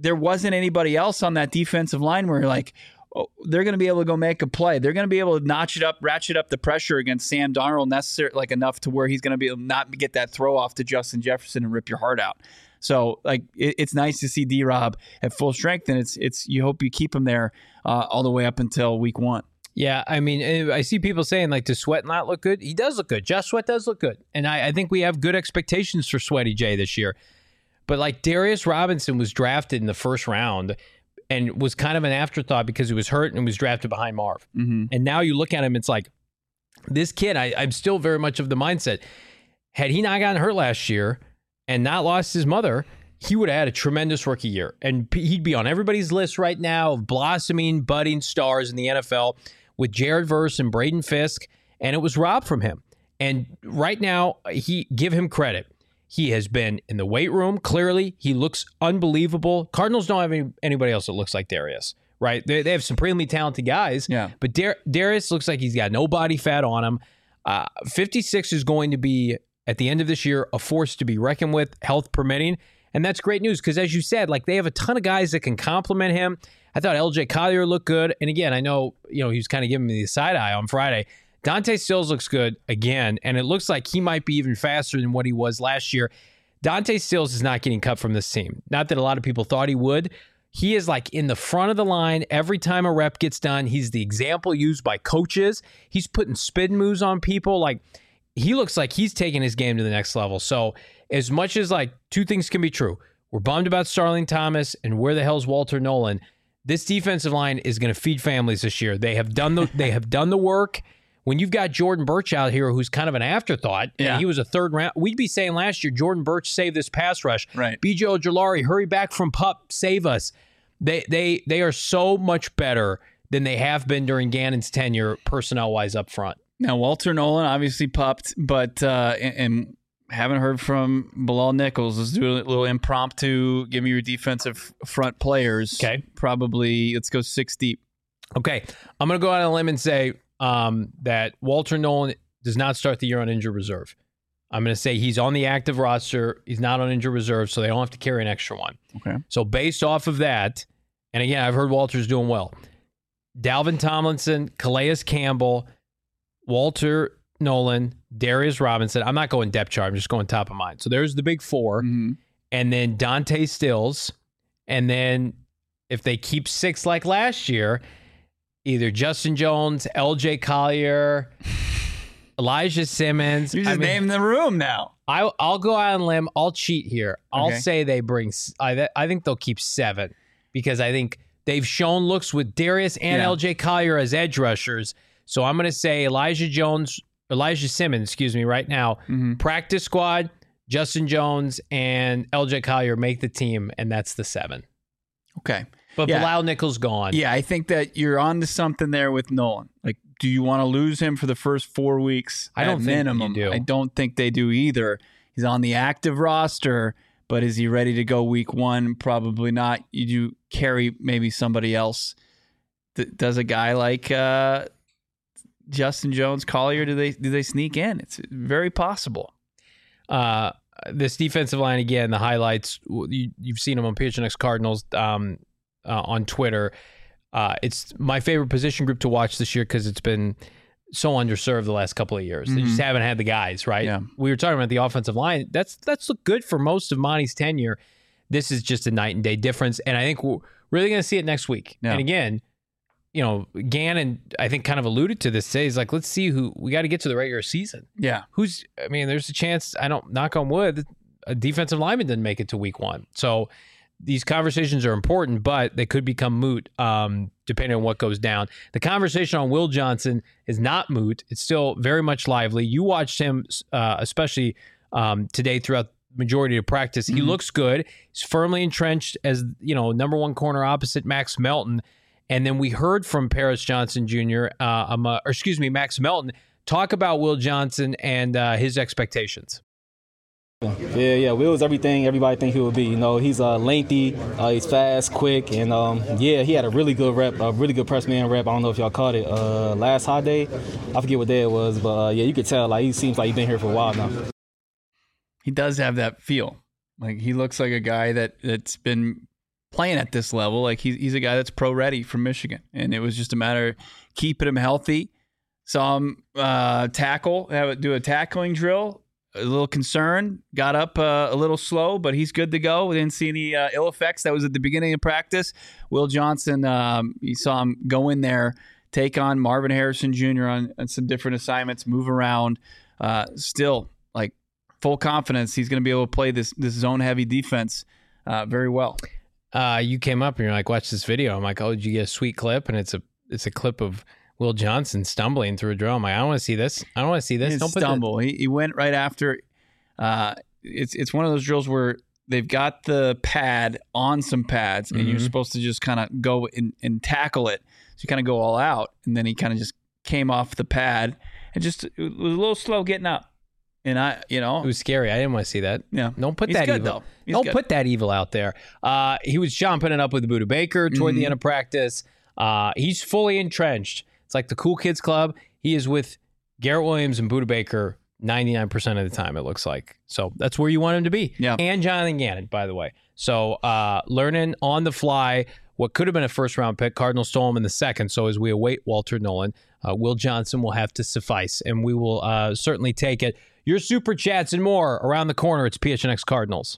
there wasn't anybody else on that defensive line where you're like, oh, they're going to be able to go make a play. They're going to be able to ratchet up the pressure against Sam Darnold enough to where he's going to be able to not get that throw off to Justin Jefferson and rip your heart out. So it's nice to see D-Rob at full strength, and it's you hope you keep him there all the way up until week 1. Yeah, I mean, I see people saying, like, does Sweat not look good? He does look good. Josh Sweat does look good. And I think we have good expectations for Sweaty J this year. But, like, Darius Robinson was drafted in the first round and was kind of an afterthought because he was hurt and was drafted behind Marv. Mm-hmm. And now you look at him, it's like, this kid, I'm still very much of the mindset. Had he not gotten hurt last year and not lost his mother, he would have had a tremendous rookie year. And he'd be on everybody's list right now of blossoming, budding stars in the NFL with Jared Verse and Braden Fisk, and it was robbed from him. And right now, give him credit. He has been in the weight room, clearly. He looks unbelievable. Cardinals don't have anybody else that looks like Darius, right? They have supremely talented guys, but Darius looks like he's got no body fat on him. 56 is going to be, at the end of this year, a force to be reckoned with, health permitting. And that's great news because, as you said, like they have a ton of guys that can complement him. I thought LJ Collier looked good. And again, I know, he was kind of giving me the side eye on Friday. Dante Stills looks good again, and it looks like he might be even faster than what he was last year. Dante Stills is not getting cut from this team. Not that a lot of people thought he would. He is like in the front of the line every time a rep gets done. He's the example used by coaches. He's putting spin moves on people. Like, he looks like he's taking his game to the next level. So as much as like two things can be true, we're bummed about Starling Thomas and where the hell's Walter Nolan. This defensive line is going to feed families this year. They have done the work. When you've got Jordan Birch out here, who's kind of an afterthought, and he was a third round. We'd be saying last year, Jordan Birch saved this pass rush. Right. B.J. Ojulari, hurry back from PUP, save us. They are so much better than they have been during Gannon's tenure, personnel-wise, up front. Now, Walter Nolan obviously popped, but and haven't heard from Bilal Nichols. Let's do a little impromptu. Give me your defensive front players. Okay. Probably, let's go 6 deep. Okay. I'm going to go out on a limb and say that Walter Nolan does not start the year on injured reserve. I'm going to say he's on the active roster. He's not on injured reserve, so they don't have to carry an extra one. Okay. So based off of that, and again, I've heard Walter's doing well. Dalvin Tomlinson, Calais Campbell, Walter Nolan, Darius Robinson. I'm not going depth chart. I'm just going top of mind. So there's the big 4. Mm-hmm. And then Dante Stills. And then if they keep 6 like last year, either Justin Jones, LJ Collier, Elijah Simmons. You're just naming the room now. I'll go out on a limb. I'll cheat here. I'll say they bring, I think they'll keep 7 because I think they've shown looks with Darius and LJ Collier as edge rushers. So I'm going to say Elijah Simmons, right now, practice squad, Justin Jones and LJ Collier make the team, and that's the 7. Okay. But Bilal Nichols gone. Yeah, I think that you're on to something there with Nolan. Like, do you want to lose him for the first 4 weeks? I don't think minimum. you do. I don't think they do either. He's on the active roster, but is he ready to go week 1? Probably not. You do carry maybe somebody else. Does a guy like Justin Jones, Collier, do they sneak in? It's very possible. This defensive line, again, the highlights, you've seen them on PHNX Cardinals on Twitter. It's my favorite position group to watch this year because it's been so underserved the last couple of years. They just haven't had the guys, right? Yeah. We were talking about the offensive line. That's looked good for most of Monty's tenure. This is just a night and day difference, and I think we're really going to see it next week. Yeah. And again, Gannon, I think, kind of alluded to this today. He's like, let's see who we got to get to the regular season. Yeah. There's a chance, knock on wood, a defensive lineman didn't make it to week 1. So these conversations are important, but they could become moot depending on what goes down. The conversation on Will Johnson is not moot. It's still very much lively. You watched him, especially today throughout the majority of practice. He looks good. He's firmly entrenched as, number 1 corner opposite Max Melton. And then we heard from Paris Johnson Jr., Max Melton, talk about Will Johnson and his expectations. Yeah. Will's everything everybody think he would be. He's lengthy, he's fast, quick, and he had a really good rep, a really good press man rep. I don't know if y'all caught it last hot day. I forget what day it was, but you could tell he seems like he's been here for a while now. He does have that feel. Like, he looks like a guy that's been playing at this level. Like he's a guy that's pro ready from Michigan, and it was just a matter of keeping him healthy. Saw him do a tackling drill. A little concerned, got up a little slow, but he's good to go. We didn't see any ill effects. That was at the beginning of practice. Will Johnson, you saw him go in there, take on Marvin Harrison Jr. on some different assignments, move around. Still, like, full confidence he's going to be able to play this zone-heavy defense very well. You came up and you're like, watch this video. I'm like, oh, did you get a sweet clip? And it's a clip of Will Johnson stumbling through a drill. I'm like, I don't want to see this. I don't want to see this. Don't stumble. He went right after. It's one of those drills where they've got the pad on some pads, and you're supposed to just kind of go and tackle it. So you kind of go all out, and then he kind of just came off the pad and it was a little slow getting up. And it was scary. I didn't want to see that. Yeah, don't put He's that good, evil. Though. Don't put that evil out there. He was chomping it up with Buda Baker toward the end of practice. He's fully entrenched. It's like the Cool Kids Club. He is with Garrett Williams and Buda Baker 99% of the time, it looks like. So that's where you want him to be. Yeah. And Jonathan Gannon, by the way. So learning on the fly what could have been a first-round pick. Cardinals stole him in the second. So as we await Walter Nolan, Will Johnson will have to suffice, and we will certainly take it. Your super chats and more around the corner. It's PHNX Cardinals.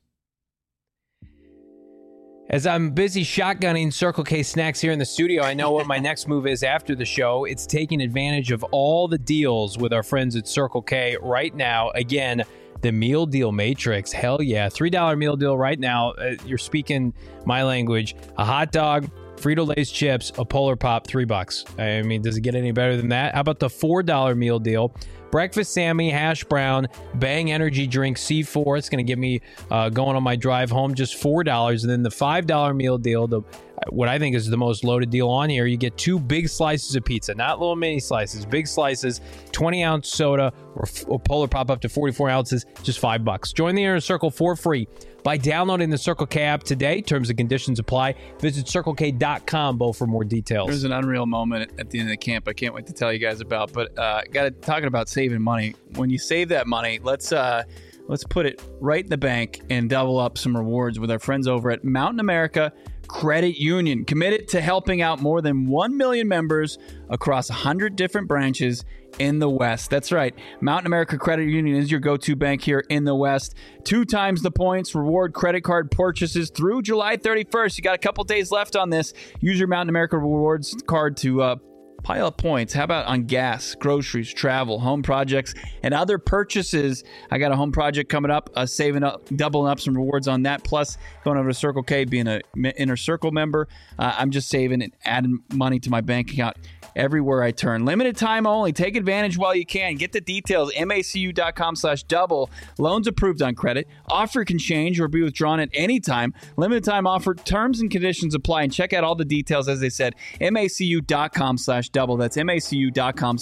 As I'm busy shotgunning Circle K snacks here in the studio, I know what my next move is after the show. It's taking advantage of all the deals with our friends at Circle K right now. Again, the meal deal matrix. Hell yeah. $3 meal deal right now. You're speaking my language. A hot dog, Frito-Lay's chips, a Polar Pop, $3. I mean, does it get any better than that? How about the $4 meal deal? Breakfast Sammy, hash brown, Bang energy drink, C4. It's going to get me going on my drive home, just $4. And then the $5 meal deal, what I think is the most loaded deal on here, you get 2 big slices of pizza, not little mini slices, big slices, 20-ounce soda, or Polar Pop up to 44 ounces, just $5. Join the Inner Circle for free by downloading the Circle K app today. Terms and conditions apply. Visit CircleK.com, Bo, for more details. There's an unreal moment at the end of the camp I can't wait to tell you guys about. But talking about saving money. When you save that money, let's put it right in the bank and double up some rewards with our friends over at Mountain America Credit Union. Committed to helping out more than 1 million members across 100 different branches in the West. That's right. Mountain America Credit Union is your go-to bank here in the West. 2 times the points, reward credit card purchases through July 31st. You got a couple days left on this. Use your Mountain America Rewards card to pile up points. How about on gas, groceries, travel, home projects, and other purchases? I got a home project coming up, saving up, doubling up some rewards on that. Plus, going over to Circle K, being an Inner Circle member, I'm just saving and adding money to my bank account everywhere I turn. Limited time only. Take advantage while you can. Get the details. macu.com/double. Loans approved on credit. Offer can change or be withdrawn at any time. Limited time offer. Terms and conditions apply. And check out all the details, as they said, macu.com/double. That's macu.com/double.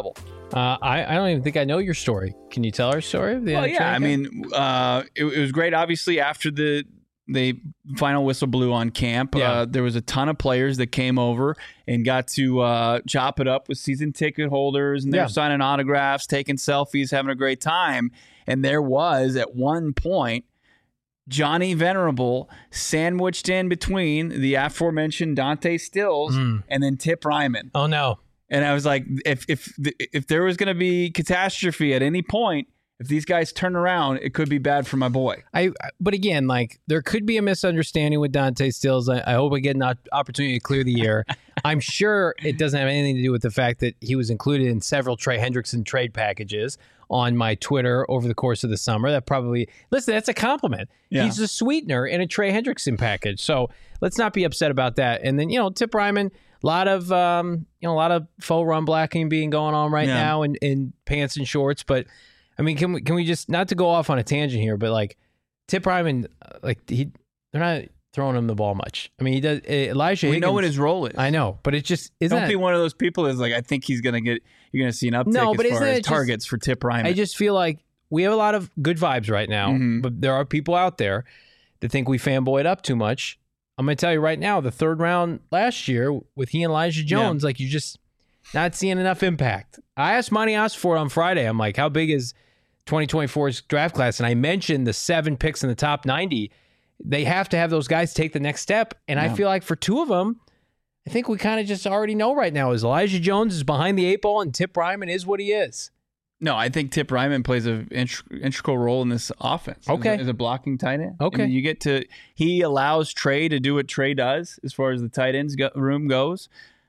I don't even think I know your story. Can you tell our story? Well, yeah. I mean, it was great. Obviously, after the final whistle blew on camp, there was a ton of players that came over and got to chop it up with season ticket holders, and they're signing autographs, taking selfies, having a great time. And there was, at one point, Johnny Venerable sandwiched in between the aforementioned Dante Stills and then Tip Ryman. Oh, no. And I was like, if there was going to be catastrophe at any point, if these guys turn around, it could be bad for my boy. But again, like, there could be a misunderstanding with Dante Stills. I hope I get an opportunity to clear the air. I'm sure it doesn't have anything to do with the fact that he was included in several Trey Hendrickson trade packages on my Twitter over the course of the summer. That probably, listen, that's a compliment. Yeah. He's a sweetener in a Trey Hendrickson package. So let's not be upset about that. And then, Tip Ryman, a lot of faux run blacking being going on right now in pants and shorts. But I mean, can we just, not to go off on a tangent here, but like Tip Ryman, they're not throwing him the ball much. I mean, he does. Elijah Higgins, we know what his role is. I know, but it just isn't. Don't be one of those people that's like, I think he's gonna get. You're gonna see an uptick as far as targets for Tip Ryman. I just feel like we have a lot of good vibes right now, but there are people out there that think we fanboyed up too much. I'm gonna tell you right now, the 3rd round last year with he and Elijah Jones, like, you're just not seeing enough impact. I asked Monty Osford on Friday. I'm like, how big is 2024's draft class? And I mentioned the 7 picks in the top 90. they have to have those guys take the next step. And I feel like for two of them, I think we kind of just already know right now is Elijah Jones is behind the 8 ball and Tip Ryman is what he is. No, I think Tip Ryman plays an integral role in this offense. Okay. As a blocking tight end. Okay. I mean, he allows Trey to do what Trey does as far as the tight ends room goes.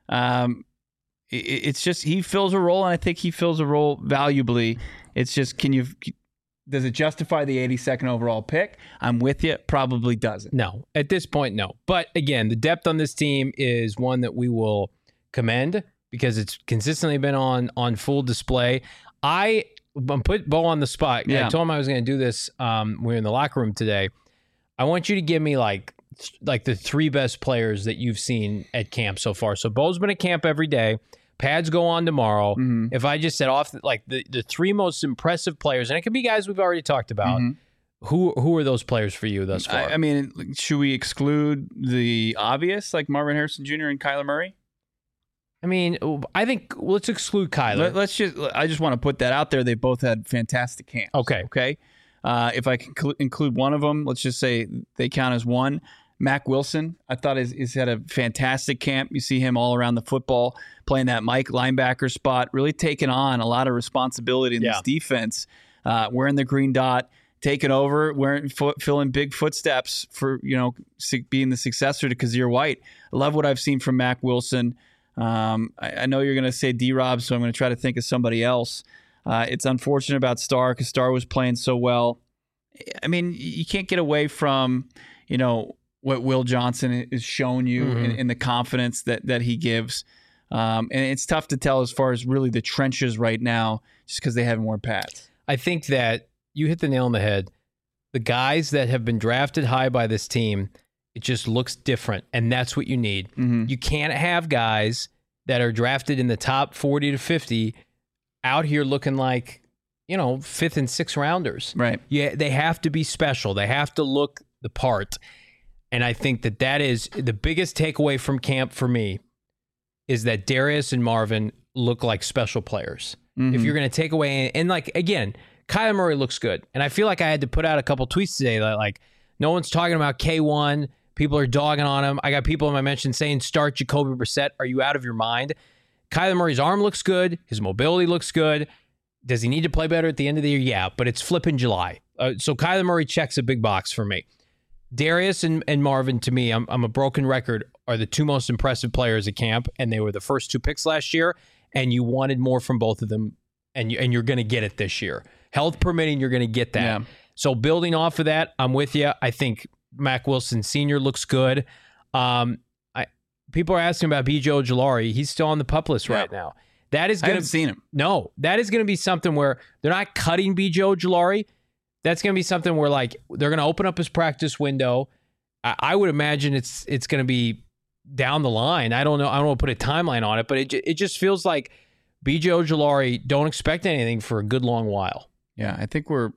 It's just he fills a role, and I think he fills a role valuably. It's just, does it justify the 82nd overall pick? I'm with you. Probably doesn't. No, at this point, no. But again, the depth on this team is one that we will commend because it's consistently been on full display. I'm put Bo on the spot. Yeah. I told him I was going to do this. We were in the locker room today. I want you to give me like the 3 best players that you've seen at camp so far. So Bo's been at camp every day. Pads go on tomorrow. Mm-hmm. If I just said off like the 3 most impressive players, and it could be guys we've already talked about, who are those players for you thus far? I mean, should we exclude the obvious, like Marvin Harrison Jr. and Kyler Murray? I mean, I think let's exclude Kyler. I just want to put that out there. They both had fantastic camps. Okay. If I can include one of them, let's just say they count as one. Mack Wilson, I thought he's had a fantastic camp. You see him all around the football, playing that Mike linebacker spot, really taking on a lot of responsibility in this defense, wearing the green dot, taking over, filling big footsteps for being the successor to Kazir White. I love what I've seen from Mack Wilson. I know you're going to say D-Rob, so I'm going to try to think of somebody else. It's unfortunate about Starr because Starr was playing so well. I mean, you can't get away from, what Will Johnson has shown you in the confidence that he gives. And it's tough to tell as far as really the trenches right now just because they haven't worn pads. I think that you hit the nail on the head. The guys that have been drafted high by this team, it just looks different, and that's what you need. You can't have guys that are drafted in the top 40 to 50 out here looking like, 5th and 6th rounders. Right. Yeah, they have to be special. They have to look the part. And I think that is the biggest takeaway from camp for me is that Darius and Marvin look like special players. If you're going to take away, and like, again, Kyler Murray looks good. And I feel like I had to put out a couple tweets today that like, no one's talking about K1. People are dogging on him. I got people in my mention saying, start Jacoby Brissett. Are you out of your mind? Kyler Murray's arm looks good. His mobility looks good. Does he need to play better at the end of the year? Yeah, but it's flipping July. So Kyler Murray checks a big box for me. Darius and Marvin, to me, I'm a broken record, are the 2 most impressive players at camp, and they were the first 2 picks last year, and you wanted more from both of them, and you're going to get it this year. Health permitting, you're going to get that. Yeah. So building off of that, I'm with you. I think Mack Wilson Sr. looks good. People are asking about B.J. Ojulari. He's still on the PUP list right now. That is I haven't seen him. No, that is going to be something where they're not cutting B.J. Ojulari. That's going to be something where like they're going to open up his practice window. I would imagine it's going to be down the line. I don't know. I don't want to put a timeline on it, but it just feels like B.J. Ojulari, don't expect anything for a good long while. Yeah, I think we're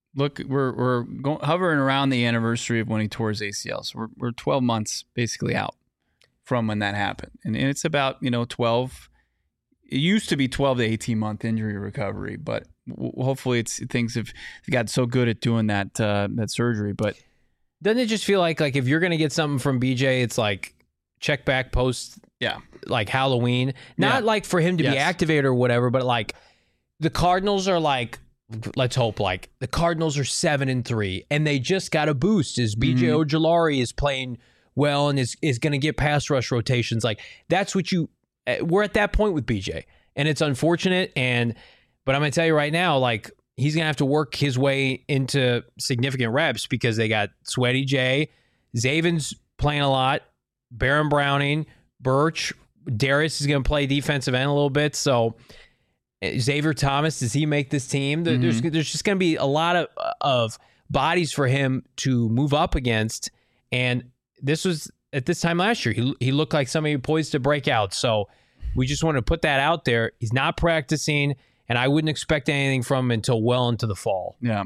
hovering around the anniversary of when he tore his ACL. So we're 12 months basically out from when that happened, and it's about 12. It used to be 12 to 18 month injury recovery, but hopefully things have got so good at doing that surgery. But doesn't it just feel like if you're going to get something from BJ, it's like check back post, like Halloween, not like for him to be activated or whatever, but like the Cardinals are like, let's hope like the Cardinals are 7-3 and they just got a boost as BJ Ojulari is playing well and is going to get pass rush rotations. Like that's what we're at that point with BJ, and it's unfortunate. But I'm going to tell you right now, like he's going to have to work his way into significant reps because they got Sweaty J, Zaven's playing a lot, Baron Browning, Birch, Darius is going to play defensive end a little bit. So Xavier Thomas, does he make this team? There's just going to be a lot of bodies for him to move up against, and this was at this time last year. He looked like somebody poised to break out. So we just want to put that out there. He's not practicing, and I wouldn't expect anything from him until well into the fall. Yeah.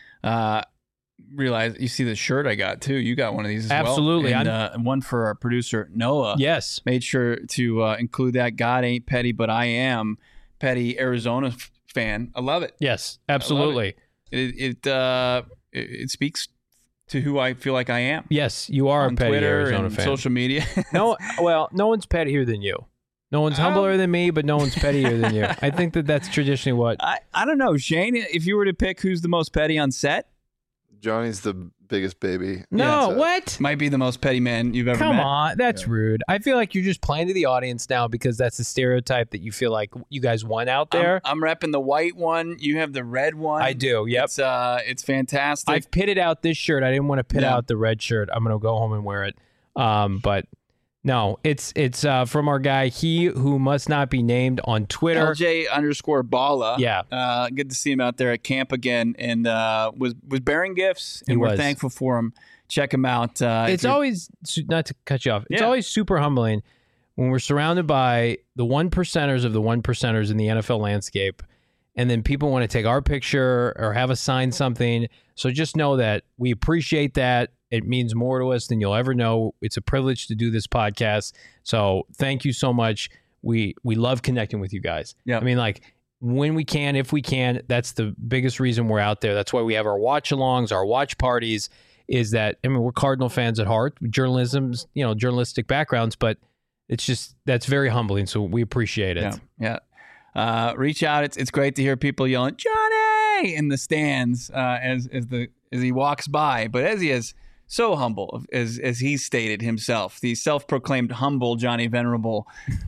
Realize you see the shirt I got too. You got one of these as Absolutely. well. And one for our producer Noah. Yes. Made sure to include that. God ain't petty, but I am petty Arizona fan. I love it. Yes, absolutely. It speaks to who I feel like I am. Yes, you are on a petty Twitter Arizona and fan. social media. No one's pettier than you. No one's humbler than me, but no one's pettier than you. I think that's traditionally what. I don't know, Shane. If you were to pick who's the most petty on set, Johnny's the biggest baby. No, Yeah, what? might be the most petty man you've ever met. Come on, that's rude. I feel like you're just playing to the audience now because that's the stereotype that you feel like you guys won out there. I'm repping the white one. You have the red one. I do. Yep. It's fantastic. I've pitted out this shirt. I didn't want to pit out the red shirt. I'm gonna go home and wear it. But no, it's from our guy, he who must not be named on Twitter. LJ_Bala. Yeah. Good to see him out there at camp again, and was bearing gifts, and He we're was. thankful for him. Check him out. It's always, not to cut you off, it's Yeah. always super humbling when we're surrounded by the 1%ers of the 1%ers in the NFL landscape, and then people want to take our picture or have us sign something. So just know that we appreciate that. It means more to us than you'll ever know. It's a privilege to do this podcast. So thank you so much. We love connecting with you guys. Yeah. I mean, like, when we can, if we can, that's the biggest reason we're out there. That's why we have our watch-alongs, our watch parties, is that, I mean, we're Cardinal fans at heart, journalism's, journalistic backgrounds, but it's just, that's very humbling. So we appreciate it. Yeah. Reach out. It's great to hear people yelling Johnny in the stands as he walks by. But as he is so humble, as he stated himself, the self-proclaimed humble Johnny Venerable,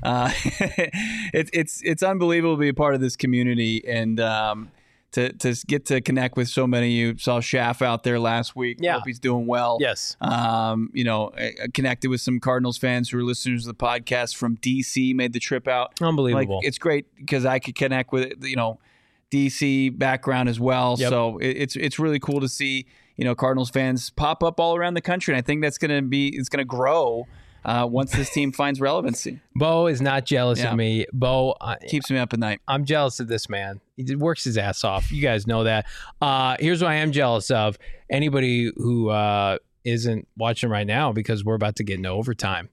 it's unbelievable to be a part of this community and to get to connect with so many of you. Saw Schaff out there last week. Yeah. Hope he's doing well. Yes. Connected with some Cardinals fans who are listeners of the podcast from DC, made the trip out. Unbelievable. Like, it's great because I could connect with, DC background as well. Yep. So it's really cool to see, Cardinals fans pop up all around the country. And I think it's going to grow once this team finds relevancy. Bo is not jealous of me. Bo Keeps me up at night. I'm jealous of this man. He works his ass off. You guys know that. Here's what I am jealous of. Anybody who isn't watching right now, because we're about to get into overtime.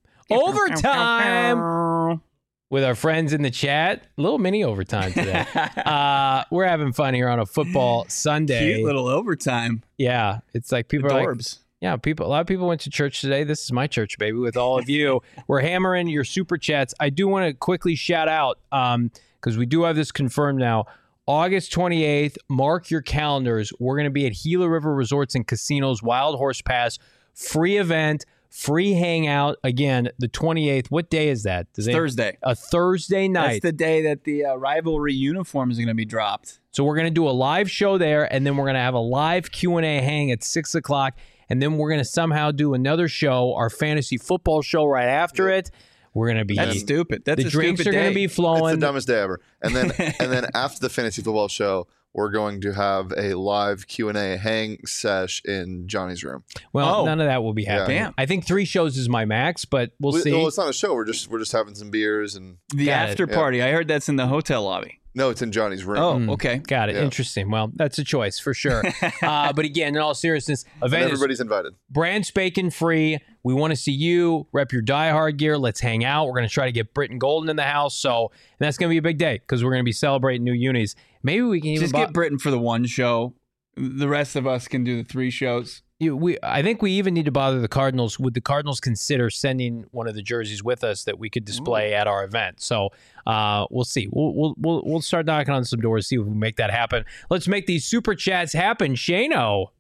Overtime with our friends in the chat. A little mini overtime today. We're having fun here on a football Sunday. Cute little overtime. Yeah. It's like people are like, Adorbs. yeah, a lot of people went to church today. This is my church, baby, with all of you. We're hammering your super chats. I do want to quickly shout out, because we do have this confirmed now. August 28th, mark your calendars. We're going to be at Gila River Resorts and Casinos, Wild Horse Pass, free event, free hangout. Again, the 28th. What day is that? Thursday. A Thursday night. That's the day that the rivalry uniforms are going to be dropped. So we're going to do a live show there, and then we're going to have a live Q&A hang at 6 o'clock. And then we're going to somehow do another show, our fantasy football show right after it. We're going to be... That's stupid. That's the a drinks stupid are going to day. be It's flowing. the dumbest day ever. And then after the fantasy football show, we're going to have a live Q&A hang sesh in Johnny's room. Well, none of that will be happening. Damn. I think 3 shows is my max, but we'll see. Well, it's not a show. We're just having some beers and The Got it. after party. I heard that's in the hotel lobby. no, it's in Johnny's room. Oh, okay. Got it. Yeah. Interesting. Well, that's a choice for sure. But again, in all seriousness, event is Everybody's invited. brand spanking free. We want to see you rep your Die Hard gear. Let's hang out. We're going to try to get Britton Golden in the house. So, and that's going to be a big day because we're going to be celebrating new unis. Maybe we can even Just get Britain for the one show. The rest of us can do the 3 shows. I think we even need to bother the Cardinals. Would the Cardinals consider sending one of the jerseys with us that we could display at our event? So we'll see. We'll start knocking on some doors, see if we can make that happen. Let's make these super chats happen. Shano.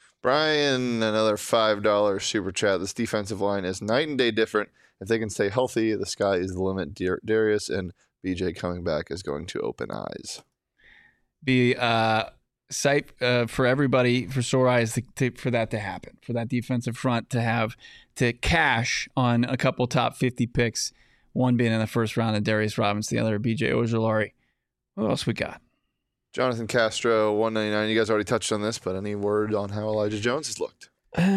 Brian, another $5 super chat. This defensive line is night and day different. If they can stay healthy, the sky is the limit. Darius and BJ coming back is going to open eyes. Be sight for everybody, for sore eyes, for that to happen, for that defensive front to cash on a couple top 50 picks, one being in the first round of Darius Robinson, the other BJ Ojulari. What else we got? Jonathan Castro, 199. You guys already touched on this, but any word on how Elijah Jones has looked?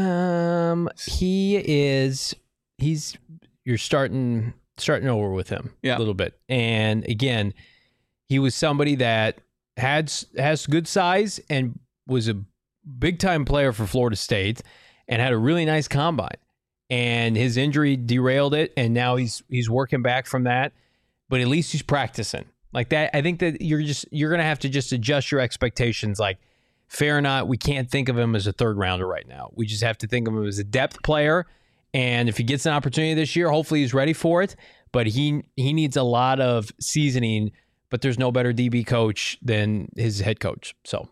You're starting over with him a little bit. And again, he was somebody that has good size and was a big time player for Florida State and had a really nice combine. And his injury derailed it, and now he's working back from that. But at least he's practicing. Like that, I think that you're gonna have to just adjust your expectations. Like fair or not, we can't think of him as a third rounder right now. We just have to think of him as a depth player. And if he gets an opportunity this year, hopefully he's ready for it. But he needs a lot of seasoning. But there's no better DB coach than his head coach. So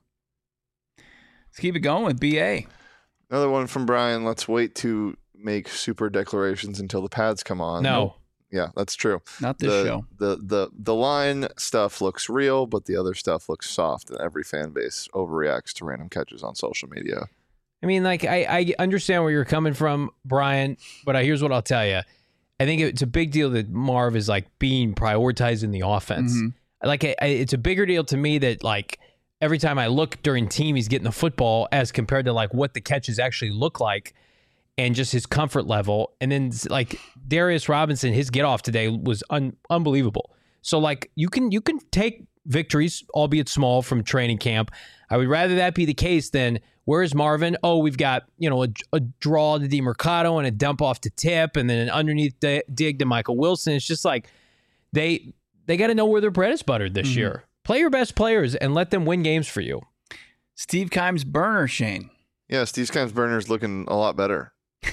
let's keep it going with BA. Another one from Brian. Let's wait to make super declarations until the pads come on. No. Nope. Yeah, that's true. Not this show. The line stuff looks real, but the other stuff looks soft, and every fan base overreacts to random catches on social media. I mean, like, I understand where you're coming from, Brian, but here's what I'll tell you. I think it's a big deal that Marv is, like, being prioritized in the offense. Mm-hmm. Like, it's a bigger deal to me that, like, every time I look during team, he's getting the football as compared to, like, what the catches actually look like and just his comfort level. And then, like, Darius Robinson, his get-off today was unbelievable. So, like, you can take victories, albeit small, from training camp. I would rather that be the case than, where's Marvin? Oh, we've got, a draw to DeMercado and a dump off to Tip and then an underneath dig to Michael Wilson. It's just like they got to know where their bread is buttered this year. Play your best players and let them win games for you. Steve Keim's burner, Shane. Yeah, Steve Keim's burner's looking a lot better.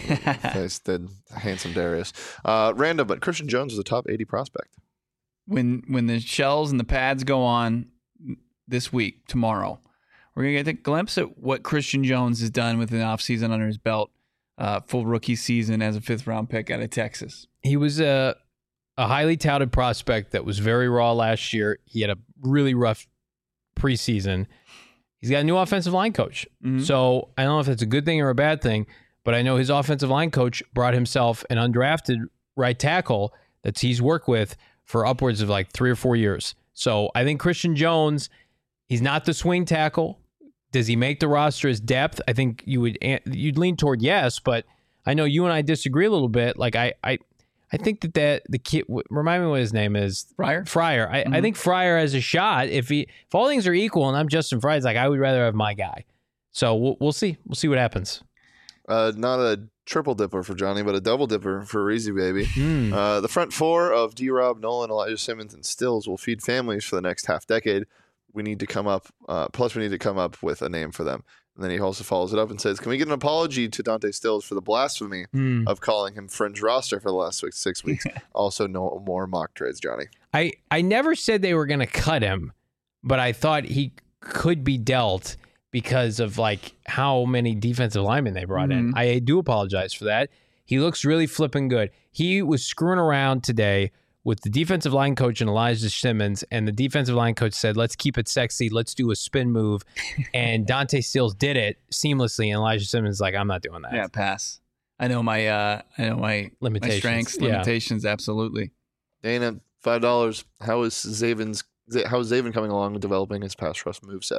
Than handsome Darius. Random, but Christian Jones is a top 80 prospect. When the shells and the pads go on this week, tomorrow, we're going to get a glimpse at what Christian Jones has done with an offseason under his belt, full rookie season as a 5th-round pick out of Texas. He was a highly touted prospect that was very raw last year. He had a really rough preseason. He's got a new offensive line coach. Mm-hmm. So I don't know if that's a good thing or a bad thing, but I know his offensive line coach brought himself an undrafted right tackle that he's worked with for upwards of like 3 or 4 years. So I think Christian Jones, he's not the swing tackle. Does he make the roster as depth? I think you'd lean toward yes, but I know you and I disagree a little bit. Like I think that the kid, remind me what his name is. Fryer. I think Fryer has a shot. If all things are equal and I'm Justin Fryer, it's like I would rather have my guy. So we'll see. We'll see what happens. Not a triple dipper for Johnny, but a double dipper for Reezy Baby. The front four of D-Rob, Nolan, Elijah Simmons, and Stills will feed families for the next half decade. We need to come up, with a name for them. And then he also follows it up and says, can we get an apology to Dante Stills for the blasphemy of calling him fringe roster for the last 6 weeks? Also, no more mock trades, Johnny. I never said they were going to cut him, but I thought he could be dealt because of like how many defensive linemen they brought in. I do apologize for that. He looks really flipping good. He was screwing around today with the defensive line coach and Elijah Simmons, and the defensive line coach said, let's keep it sexy. Let's do a spin move. And Dante Stills did it seamlessly, and Elijah Simmons is like, I'm not doing that. Yeah, pass. I know my limitations. My strengths, limitations, absolutely. Dana, $5. How is Zaven coming along with developing his pass rush moveset?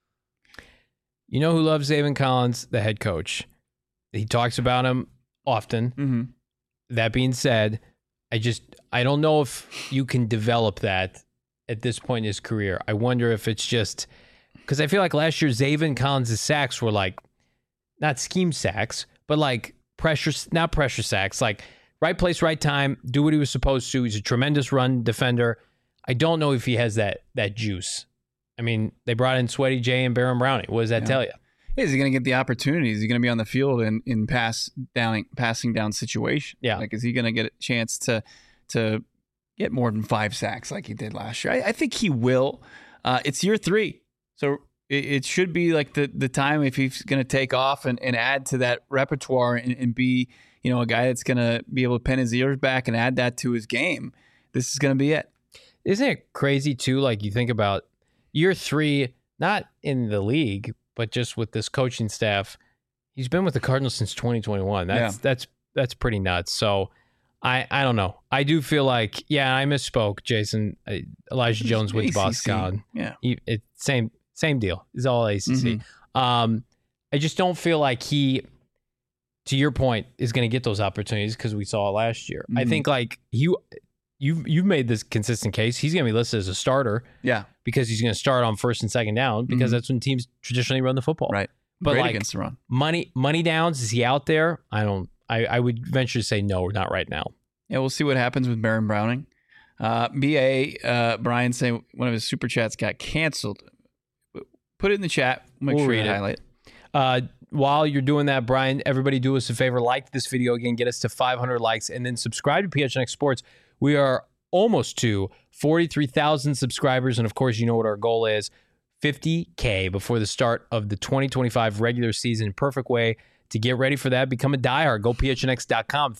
You know who loves Zaven Collins? The head coach. He talks about him often. Mm-hmm. That being said, I don't know if you can develop that at this point in his career. I wonder if it's just because I feel like last year Zaven Collins' sacks were like not scheme sacks, but like not pressure sacks, like right place, right time, do what he was supposed to. He's a tremendous run defender. I don't know if he has that juice. I mean, they brought in Sweaty J and Baron Browning. What does that tell you? Is he going to get the opportunities? Is he going to be on the field in passing down situation? Yeah. Like, is he going to get a chance to get more than 5 sacks like he did last year? I think he will. It's year 3. So it should be like the time if he's going to take off and add to that repertoire and be, a guy that's going to be able to pin his ears back and add that to his game. This is going to be it. Isn't it crazy too? Like you think about year 3, not in the league, but just with this coaching staff. He's been with the Cardinals since 2021. That's pretty nuts. So I don't know. I do feel like, I misspoke, Jason. Elijah Jones went to Boston. Yeah. Same deal. It's all ACC. Mm-hmm. I just don't feel like he, to your point, is going to get those opportunities because we saw it last year. Mm-hmm. I think like you've made this consistent case. He's going to be listed as a starter. Yeah. Because he's going to start on first and second down because that's when teams traditionally run the football. Right. But great like against the run. Money downs, is he out there? I would venture to say no, not right now. Yeah, we'll see what happens with Baron Browning. Brian saying one of his super chats got canceled. Put it in the chat. Make We'll sure read you it. highlight. While you're doing that, Brian, everybody do us a favor. Like this video again. Get us to 500 likes. And then subscribe to PHNX Sports. We are almost to 43,000 subscribers. And, of course, you know what our goal is. 50K before the start of the 2025 regular season. Perfect way to get ready for that. Become a diehard. Go phnx.com.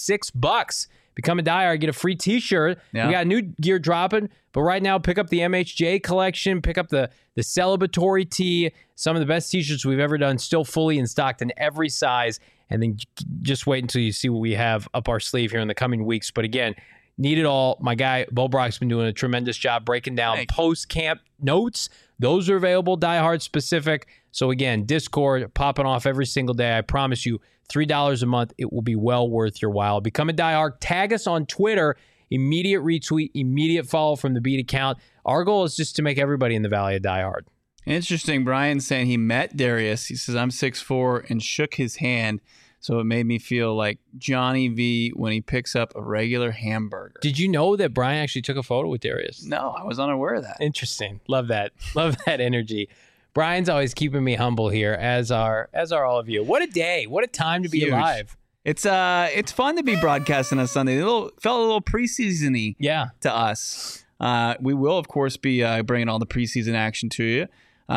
$36. Become a diehard. Get a free t-shirt. Yeah. We got new gear dropping. But right now, pick up the MHJ collection. Pick up the celebratory tee. Some of the best t-shirts we've ever done. Still fully in stock in every size. And then just wait until you see what we have up our sleeve here in the coming weeks. But again, need it all. My guy, Bo Brock's been doing a tremendous job breaking down post-camp notes. Those are available, diehard specific. So again, Discord popping off every single day. I promise you, $3 a month. It will be well worth your while. Become a diehard. Tag us on Twitter. Immediate retweet, immediate follow from the Beat account. Our goal is just to make everybody in the Valley a diehard. Interesting. Brian saying he met Darius. He says, I'm 6'4", and shook his hand. So it made me feel like Johnny V when he picks up a regular hamburger. Did you know that Brian actually took a photo with Darius? No, I was unaware of that. Interesting. Love that. Love that energy. Brian's always keeping me humble here, as are all of you. What a day. What a time to be Huge. alive. It's fun to be broadcasting on Sunday. Felt a little preseason-y to us. We will, of course, be bringing all the preseason action to you.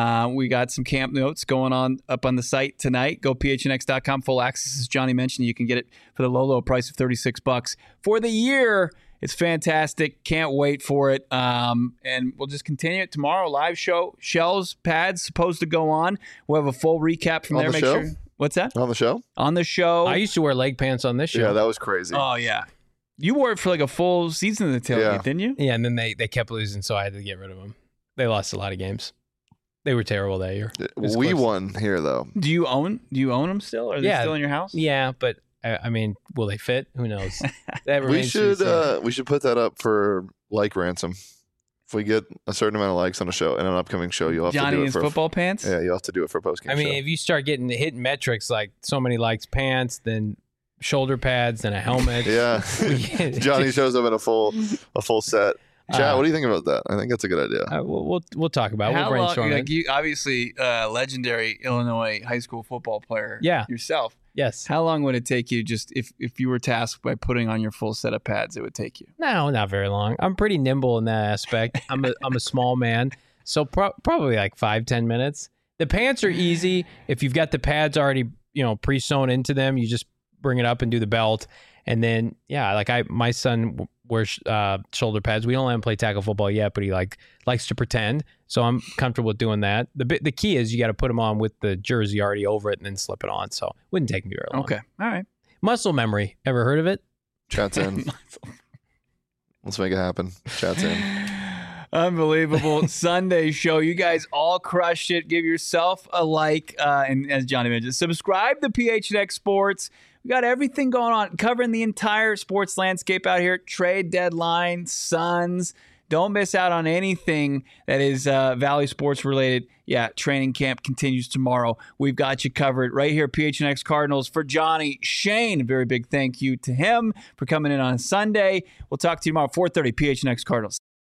We got some camp notes going on up on the site tonight. Go phnx.com. Full access, as Johnny mentioned. You can get it for the low price of $36 for the year. It's fantastic. Can't wait for it. And we'll just continue it tomorrow. Live show. Shells, pads supposed to go on. We'll have a full recap from there. On the show? What's that? On the show? On the show. I used to wear leg pants on this show. Yeah, that was crazy. Oh, yeah. You wore it for like a full season of the tailgate, didn't you? Yeah, and then they kept losing, so I had to get rid of them. They lost a lot of games. They were terrible that year. We won here, though. Do you own them still? Are they still in your house? Yeah, but I mean, will they fit? Who knows? That We remains to be seen. should put that up for like ransom. If we get a certain amount of likes on a show, in an upcoming show, you'll have Johnny to do in it for football pants? Yeah, you'll have to do it for a post-game I mean, show. if you start hitting metrics like so many likes pants, then shoulder pads, then a helmet. Yeah. Johnny shows up in a full set. Chad, what do you think about that? I think that's a good idea. We'll talk about it. We'll How brainstorm long, it. you obviously legendary Illinois high school football player yourself. Yes. How long would it take you just if you were tasked by putting on your full set of pads, it would take you? No, not very long. I'm pretty nimble in that aspect. I'm a small man, so probably like 5-10 minutes. The pants are easy. If you've got the pads already, pre-sewn into them, you just bring it up and do the belt. And then, my son wears shoulder pads. We don't let him play tackle football yet, but he likes to pretend. So I'm comfortable with doing that. The key is you got to put them on with the jersey already over it and then slip it on. So it wouldn't take me very long. Okay. All right. Muscle memory. Ever heard of it? Chat's in. Let's make it happen. Chat's in. Unbelievable. Sunday show. You guys all crushed it. Give yourself a like. And as Johnny mentioned, subscribe to PHNX Sports. We got everything going on, covering the entire sports landscape out here. Trade deadline, Suns. Don't miss out on anything that is Valley sports related. Yeah, training camp continues tomorrow. We've got you covered right here, PHNX Cardinals. For Johnny Shane, a very big thank you to him for coming in on Sunday. We'll talk to you tomorrow, 4:30, PHNX Cardinals.